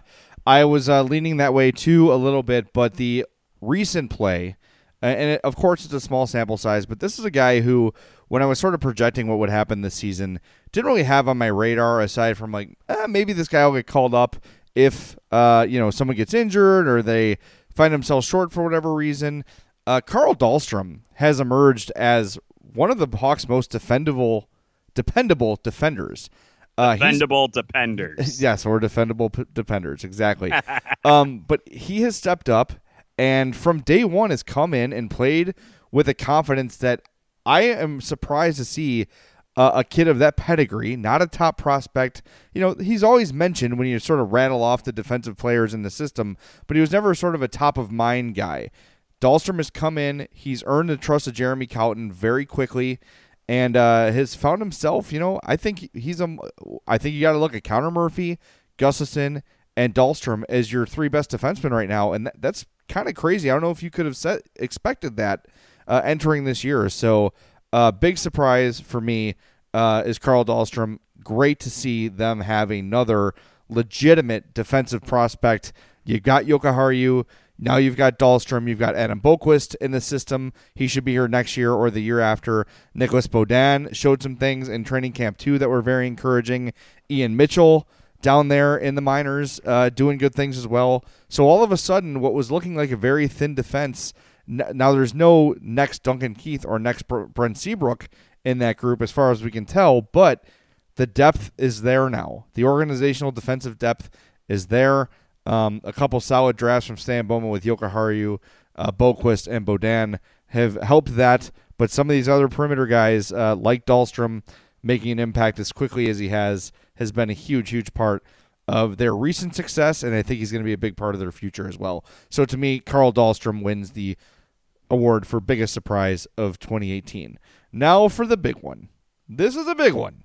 I was uh, leaning that way too a little bit, but the recent play, and it, of course it's a small sample size, but this is a guy who, when I was sort of projecting what would happen this season, didn't really have on my radar aside from like, eh, maybe this guy will get called up if uh, you know someone gets injured or they find themselves short for whatever reason. Uh, Carl Dahlstrom has emerged as one of the Hawks' most defendable, dependable defenders. Uh, defendable defenders. Yes, or defendable p- defenders, exactly. um, but he has stepped up, and from day one has come in and played with a confidence that I am surprised to see uh, a kid of that pedigree, not a top prospect. You know, he's always mentioned when you sort of rattle off the defensive players in the system, but he was never sort of a top-of-mind guy. Dahlstrom has come in. He's earned the trust of Jeremy Cowton very quickly. And uh, has found himself, you know, I think he's a. I think you got to look at Connor Murphy, Gustafson, and Dahlstrom as your three best defensemen right now, and that, that's kind of crazy. I don't know if you could have set, expected that uh, entering this year. So, uh, big surprise for me uh, is Carl Dahlstrom. Great to see them have another legitimate defensive prospect. You've got Jokiharju. Now you've got Dahlstrom, you've got Adam Boqvist in the system. He should be here next year or the year after. Nicholas Beaudin showed some things in training camp too that were very encouraging. Ian Mitchell down there in the minors uh, doing good things as well. So all of a sudden, what was looking like a very thin defense, n- now there's no next Duncan Keith or next Br- Brent Seabrook in that group as far as we can tell, but the depth is there now. The organizational defensive depth is there. Um, a couple solid drafts from Stan Bowman with Jokiharju, uh, Boqvist, and Beaudin have helped that. But some of these other perimeter guys, uh, like Dahlstrom, making an impact as quickly as he has, has been a huge, huge part of their recent success, and I think he's going to be a big part of their future as well. So to me, Carl Dahlstrom wins the award for biggest surprise of twenty eighteen. Now for the big one. This is a big one.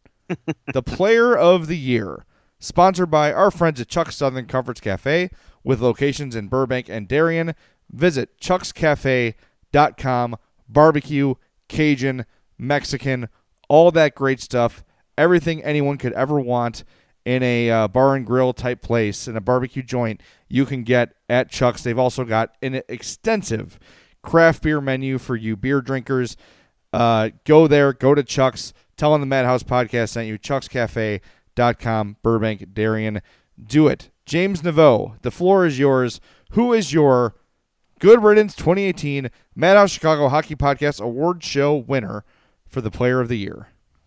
The Player of the Year. Sponsored by our friends at Chuck's Southern Comforts Cafe with locations in Burbank and Darien. Visit chucks cafe dot com. Barbecue, Cajun, Mexican, all that great stuff. Everything anyone could ever want in a uh, bar and grill type place, in a barbecue joint, you can get at Chuck's. They've also got an extensive craft beer menu for you beer drinkers. Uh, go there, go to Chuck's. Tell them the Madhouse Podcast sent you. Chucks Cafe. Dot com, Burbank, Darien. Do it. James Naveau, the floor is yours. Who is your Good Riddance twenty eighteen Madhouse Chicago Hockey Podcast Award Show winner for the Player of the Year?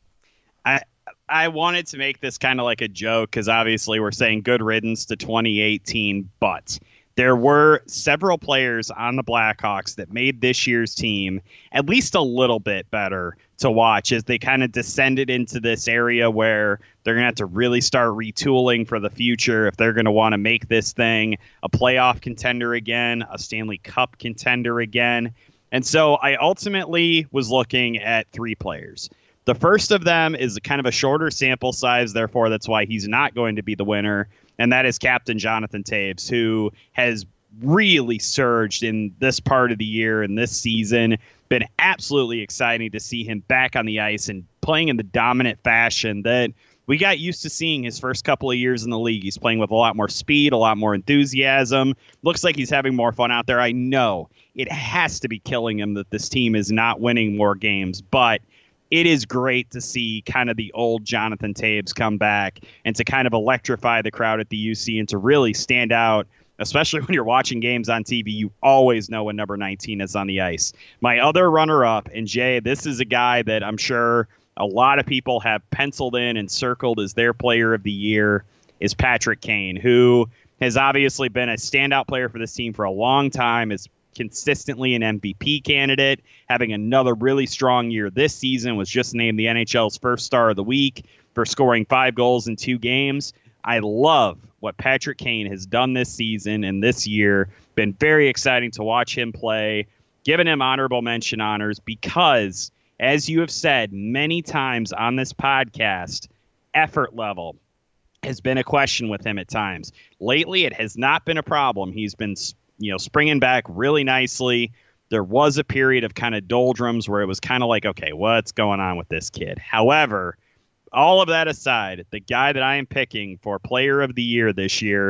I I wanted to make this kind of like a joke because obviously we're saying good riddance to twenty eighteen, but there were several players on the Blackhawks that made this year's team at least a little bit better to watch as they kind of descended into this area where they're going to have to really start retooling for the future if they're going to want to make this thing a playoff contender again, a Stanley Cup contender again. And so I ultimately was looking at three players. The first of them is kind of a shorter sample size, therefore that's why he's not going to be the winner, and that is Captain Jonathan Toews, who has really surged in this part of the year and this season. Been absolutely exciting to see him back on the ice and playing in the dominant fashion that we got used to seeing his first couple of years in the league. He's playing with a lot more speed, a lot more enthusiasm. Looks like he's having more fun out there. I know it has to be killing him that this team is not winning more games, but it is great to see kind of the old Jonathan Toews come back and to kind of electrify the crowd at the U C and to really stand out, especially when you're watching games on T V. You always know when number nineteen is on the ice. My other runner-up, and Jay, this is a guy that I'm sure a lot of people have penciled in and circled as their player of the year, is Patrick Kane, who has obviously been a standout player for this team for a long time, is consistently an M V P candidate, having another really strong year this season, was just named the N H L's first star of the week for scoring five goals in two games. I love what Patrick Kane has done this season and this year. Been very exciting to watch him play, giving him honorable mention honors because, as you have said many times on this podcast, effort level has been a question with him at times. Lately, it has not been a problem. He's been, you know, springing back really nicely. There was a period of kind of doldrums where it was kind of like, okay, what's going on with this kid? However, all of that aside, the guy that I am picking for player of the year this year,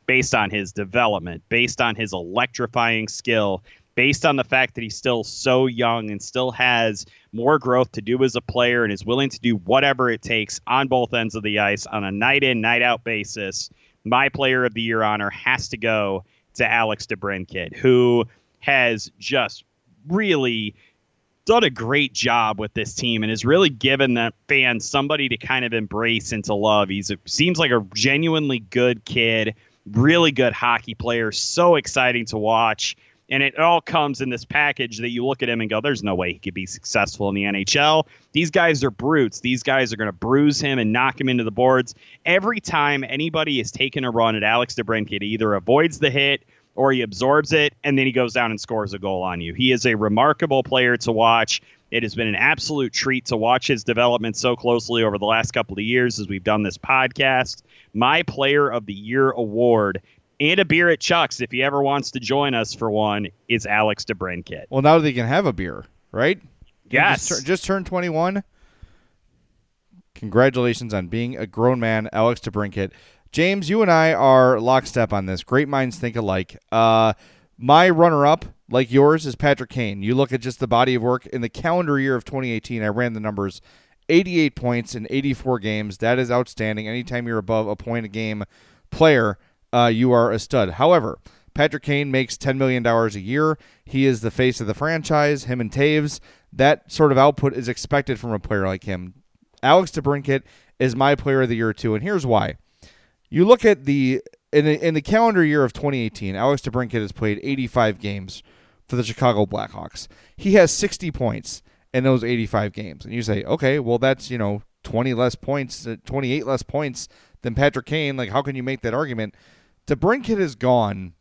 based on his development, based on his electrifying skill, based on the fact that he's still so young and still has more growth to do as a player and is willing to do whatever it takes on both ends of the ice on a night in, night out basis, my player of the year honor has to go to Alex DeBrincat, who has just really done a great job with this team and has really given the fans somebody to kind of embrace and to love. He's a, seems like a genuinely good kid, really good hockey player, so exciting to watch. And it all comes in this package that you look at him and go, there's no way he could be successful in the N H L. These guys are brutes. These guys are going to bruise him and knock him into the boards. Every time anybody is taking a run at Alex DeBrincat, he either avoids the hit or he absorbs it, and then he goes down and scores a goal on you. He is a remarkable player to watch. It has been an absolute treat to watch his development so closely over the last couple of years as we've done this podcast. My Player of the Year award and a beer at Chuck's, if he ever wants to join us for one, is Alex DeBrincat. Well, now they can have a beer, right? Yes. Just, just turned twenty-one. Congratulations on being a grown man, Alex DeBrincat. James, you and I are lockstep on this. Great minds think alike. Uh, my runner-up, like yours, is Patrick Kane. You look at just the body of work. In the calendar year of twenty eighteen, I ran the numbers, eighty-eight points in eighty-four games. That is outstanding. Anytime you're above a point a game player, uh, you are a stud. However, Patrick Kane makes ten million dollars a year. He is the face of the franchise, him and Taves. That sort of output is expected from a player like him. Alex DeBrincat is my player of the year, too, and here's why. You look at the in, the in the calendar year of twenty eighteen, Alex DeBrincat has played eighty-five games for the Chicago Blackhawks. He has sixty points in those eighty-five games. And you say, okay, well, that's, you know, twenty less points, twenty-eight less points than Patrick Kane. Like, how can you make that argument? DeBrincat has gone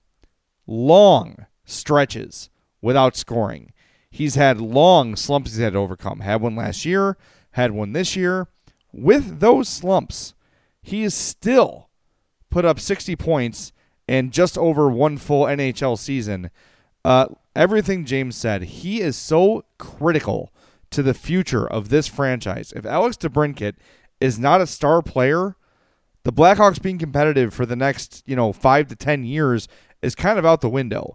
long stretches without scoring. He's had long slumps he's had to overcome. Had one last year, had one this year. With those slumps, he is still put up sixty points in just over one full N H L season. Uh, everything James said, he is so critical to the future of this franchise. If Alex DeBrincat is not a star player, the Blackhawks being competitive for the next, you know, five to ten years is kind of out the window.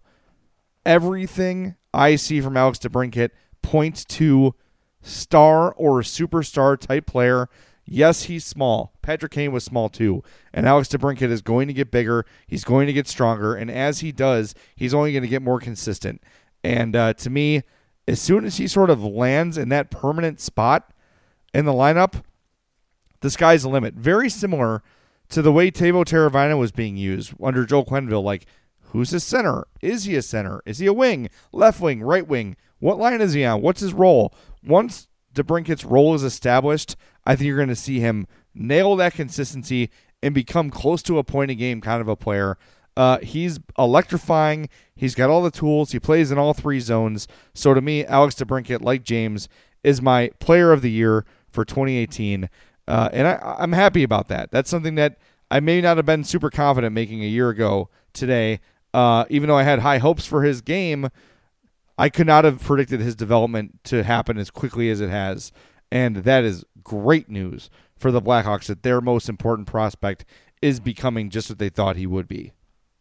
Everything I see from Alex DeBrincat points to star or superstar type player. Yes, he's small. Patrick Kane was small too. And Alex DeBrincat is going to get bigger. He's going to get stronger. And as he does, he's only going to get more consistent. And uh, to me, as soon as he sort of lands in that permanent spot in the lineup, the sky's the limit. Very similar to the way Teuvo Teravainen was being used under Joe Quenneville. Like, who's his center? Is he a center? Is he a wing? Left wing? Right wing? What line is he on? What's his role? Once DeBrincat's role is established, I think you're going to see him nail that consistency and become close to a point a game kind of a player. Uh, he's electrifying. He's got all the tools. He plays in all three zones. So to me, Alex DeBrincat, like James, is my player of the year for twenty eighteen. Uh, and I, I'm happy about that. That's something that I may not have been super confident making a year ago today. Uh, even though I had high hopes for his game, I could not have predicted his development to happen as quickly as it has. And that is great news for the Blackhawks that their most important prospect is becoming just what they thought he would be.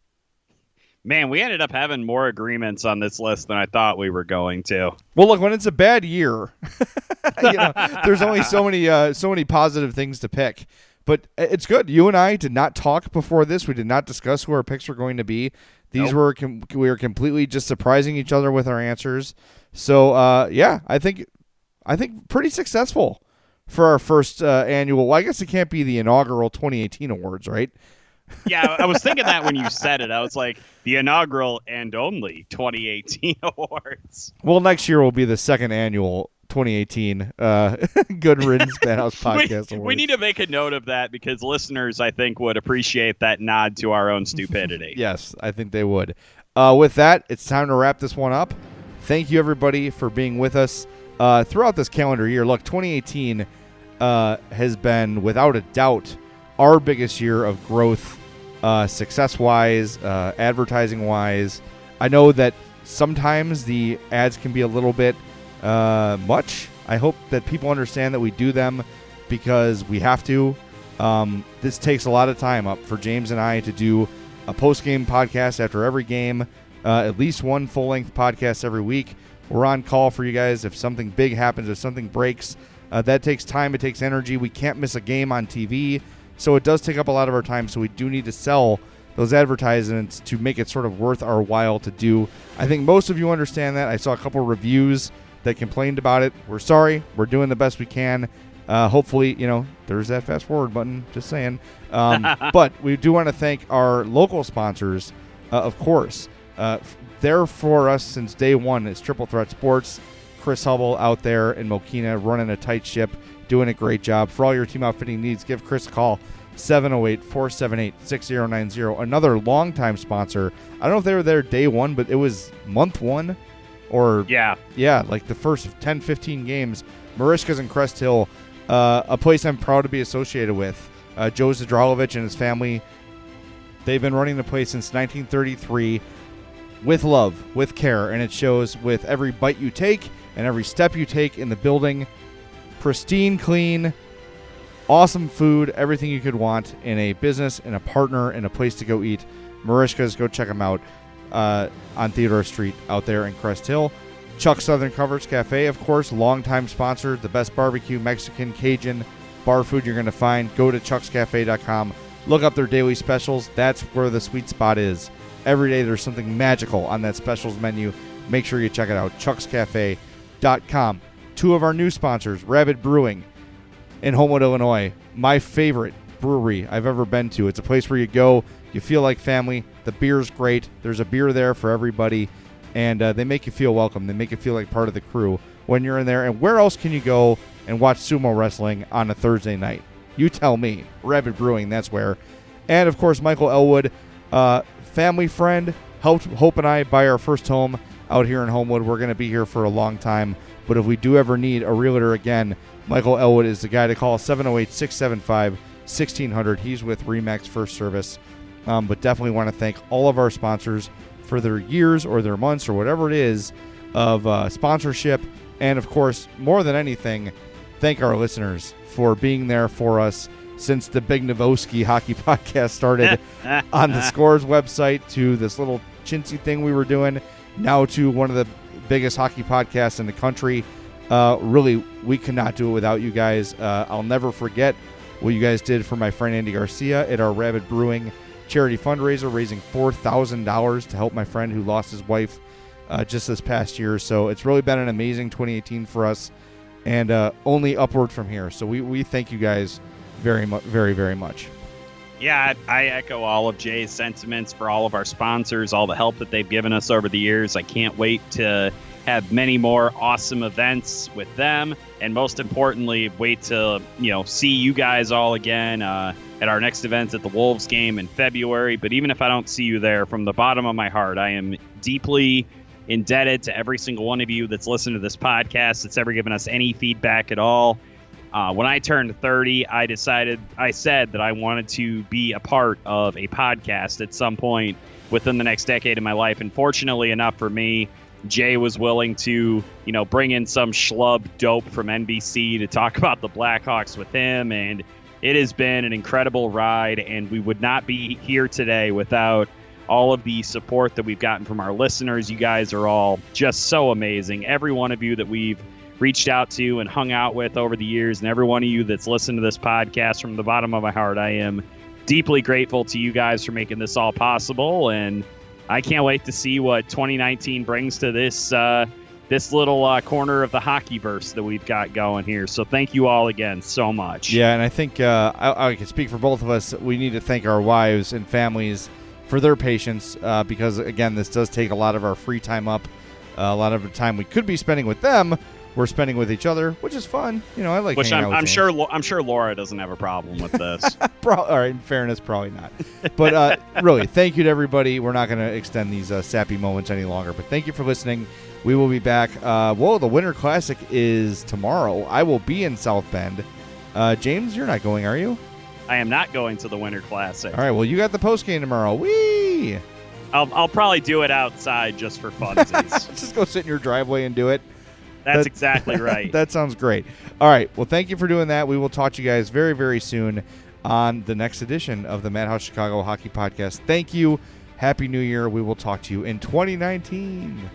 Man, we ended up having more agreements on this list than I thought we were going to. Well, look, when it's a bad year, you know, there's only so many uh, so many positive things to pick. But it's good. You and I did not talk before this. We did not discuss who our picks were going to be. These nope. were com- we were completely just surprising each other with our answers. So uh, yeah, I think I think pretty successful for our first uh, annual. Well, I guess it can't be the inaugural twenty eighteen awards, right? Yeah, I was thinking that when you said it. I was like, the inaugural and only twenty eighteen awards. Well, next year will be the second annual twenty eighteen uh, Good Riddance Madhouse Podcast we, Awards. We need to make a note of that because listeners, I think, would appreciate that nod to our own stupidity. Yes, I think they would. Uh, with that, it's time to wrap this one up. Thank you, everybody, for being with us uh, throughout this calendar year. Look, twenty eighteen uh, has been, without a doubt, our biggest year of growth, uh, success-wise, uh, advertising-wise. I know that sometimes the ads can be a little bit uh, much. I hope that people understand that we do them because we have to. Um, this takes a lot of time up for James and I to do a post-game podcast after every game, uh, at least one full-length podcast every week. We're on call for you guys if something big happens, if something breaks. Uh, that takes time. It takes energy. We can't miss a game on T V, so it does take up a lot of our time, so we do need to sell those advertisements to make it sort of worth our while to do. I think most of you understand that. I saw a couple of reviews that complained about it. We're sorry. We're doing the best we can. Uh, hopefully, you know, there's that fast forward button, just saying. Um, but we do want to thank our local sponsors, uh, of course. Uh, there for us since day one is Triple Threat Sports. Chris Hubble out there in Mokina running a tight ship, doing a great job. For all your team outfitting needs, give Chris a call. seven oh eight, four seven eight, six oh nine oh. Another longtime sponsor. I don't know if they were there day one, but it was month one or yeah, yeah, like the first ten, fifteen games. Marishka's in Crest Hill, uh, a place I'm proud to be associated with. Uh, Joe Zadralovich and his family, they've been running the place since nineteen thirty-three with love, with care, and it shows with every bite you take and every step you take in the building. Pristine, clean, awesome food, everything you could want in a business, in a partner, in a place to go eat. Marishka's, go check them out uh, on Theodore Street out there in Crest Hill. Chuck Southern Comforts Cafe, of course, longtime sponsor, the best barbecue, Mexican, Cajun, bar food you're going to find. Go to chucks cafe dot com. Look up their daily specials. That's where the sweet spot is. Every day there's something magical on that specials menu. Make sure you check it out, chucks cafe dot com. Two of our new sponsors, Rabbit Brewing in Homewood, Illinois. My favorite brewery I've ever been to. It's a place where you go, you feel like family. The beer's great. There's a beer there for everybody, and uh, they make you feel welcome. They make you feel like part of the crew when you're in there. And where else can you go and watch sumo wrestling on a Thursday night? You tell me. Rabbit Brewing, that's where. And, of course, Michael Elwood, uh, family friend, helped Hope and I buy our first home out here in Homewood. We're going to be here for a long time, but if we do ever need a realtor again, Michael Elwood is the guy to call, seven oh eight, six seven five, one six hundred. He's with Remax First Service. Um, but definitely want to thank all of our sponsors for their years or their months or whatever it is of uh, sponsorship. And, of course, more than anything, thank our listeners for being there for us since the Big Novoski Hockey Podcast started on the Scores website to this little chintzy thing we were doing, now to one of the biggest hockey podcasts in the country. Uh, really, we could not do it without you guys. Uh, I'll never forget what you guys did for my friend Andy Garcia at our Rabbit Brewing charity fundraiser, raising four thousand dollars to help my friend who lost his wife uh, just this past year. So it's really been an amazing twenty eighteen for us, and uh, only upward from here. So we, we thank you guys very much, very, very much. Yeah, I echo all of Jay's sentiments for all of our sponsors, all the help that they've given us over the years. I can't wait to have many more awesome events with them, and most importantly, wait to, you know, see you guys all again uh, at our next event at the Wolves game in February. But even if I don't see you there, from the bottom of my heart, I am deeply indebted to every single one of you that's listened to this podcast, that's ever given us any feedback at all. Uh, when I turned thirty, I decided, I said that I wanted to be a part of a podcast at some point within the next decade of my life. And fortunately enough for me, Jay was willing to, you know, bring in some schlub dope from N B C to talk about the Blackhawks with him. And it has been an incredible ride. And we would not be here today without all of the support that we've gotten from our listeners. You guys are all just so amazing. Every one of you that we've reached out to and hung out with over the years, and every one of you that's listened to this podcast, from the bottom of my heart, I am deeply grateful to you guys for making this all possible. And I can't wait to see what twenty nineteen brings to this uh, this little uh, corner of the hockeyverse that we've got going here. So thank you all again so much. Yeah, and I think uh, I, I can speak for both of us. We need to thank our wives and families for their patience uh, because, again, this does take a lot of our free time up. Uh, a lot of the time we could be spending with them, we're spending with each other, which is fun. You know, I like. Which hanging I'm, out with I'm James. sure. I'm sure Laura doesn't have a problem with this. Pro- all right, in fairness, probably not. But uh, really, thank you to everybody. We're not going to extend these uh, sappy moments any longer. But thank you for listening. We will be back. Uh, whoa, the Winter Classic is tomorrow. I will be in South Bend. Uh, James, you're not going, are you? I am not going to the Winter Classic. All right. Well, you got the post game tomorrow. Whee! I'll I'll probably do it outside just for funsies. Just go sit in your driveway and do it. That's That- exactly right. That sounds great. All right. Well, thank you for doing that. We will talk to you guys very, very soon. on the next edition of the Madhouse Chicago Hockey Podcast. Thank you. Happy New Year. We will talk to you in twenty nineteen.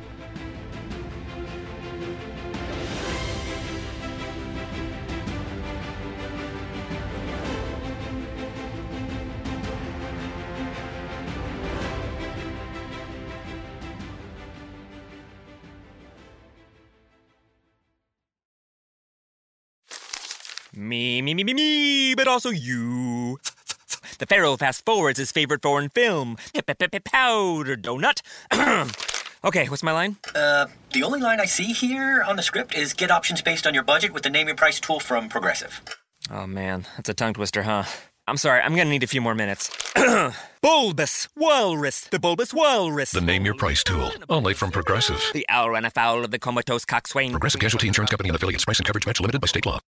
Me, me, me, me, me, but also you. The Pharaoh fast forwards his favorite foreign film, Powder Donut. Okay, what's my line? Uh, the only line I see here on the script is get options based on your budget with the Name Your Price tool from Progressive. Oh man, that's a tongue twister, huh? I'm sorry, I'm gonna need a few more minutes. Bulbous Walrus, the Bulbous Walrus. The Name Your Price tool, only from Progressive. The owl ran afoul of the comatose coxswain. Progressive Casualty Insurance Company and affiliates. Price and coverage match limited by state law.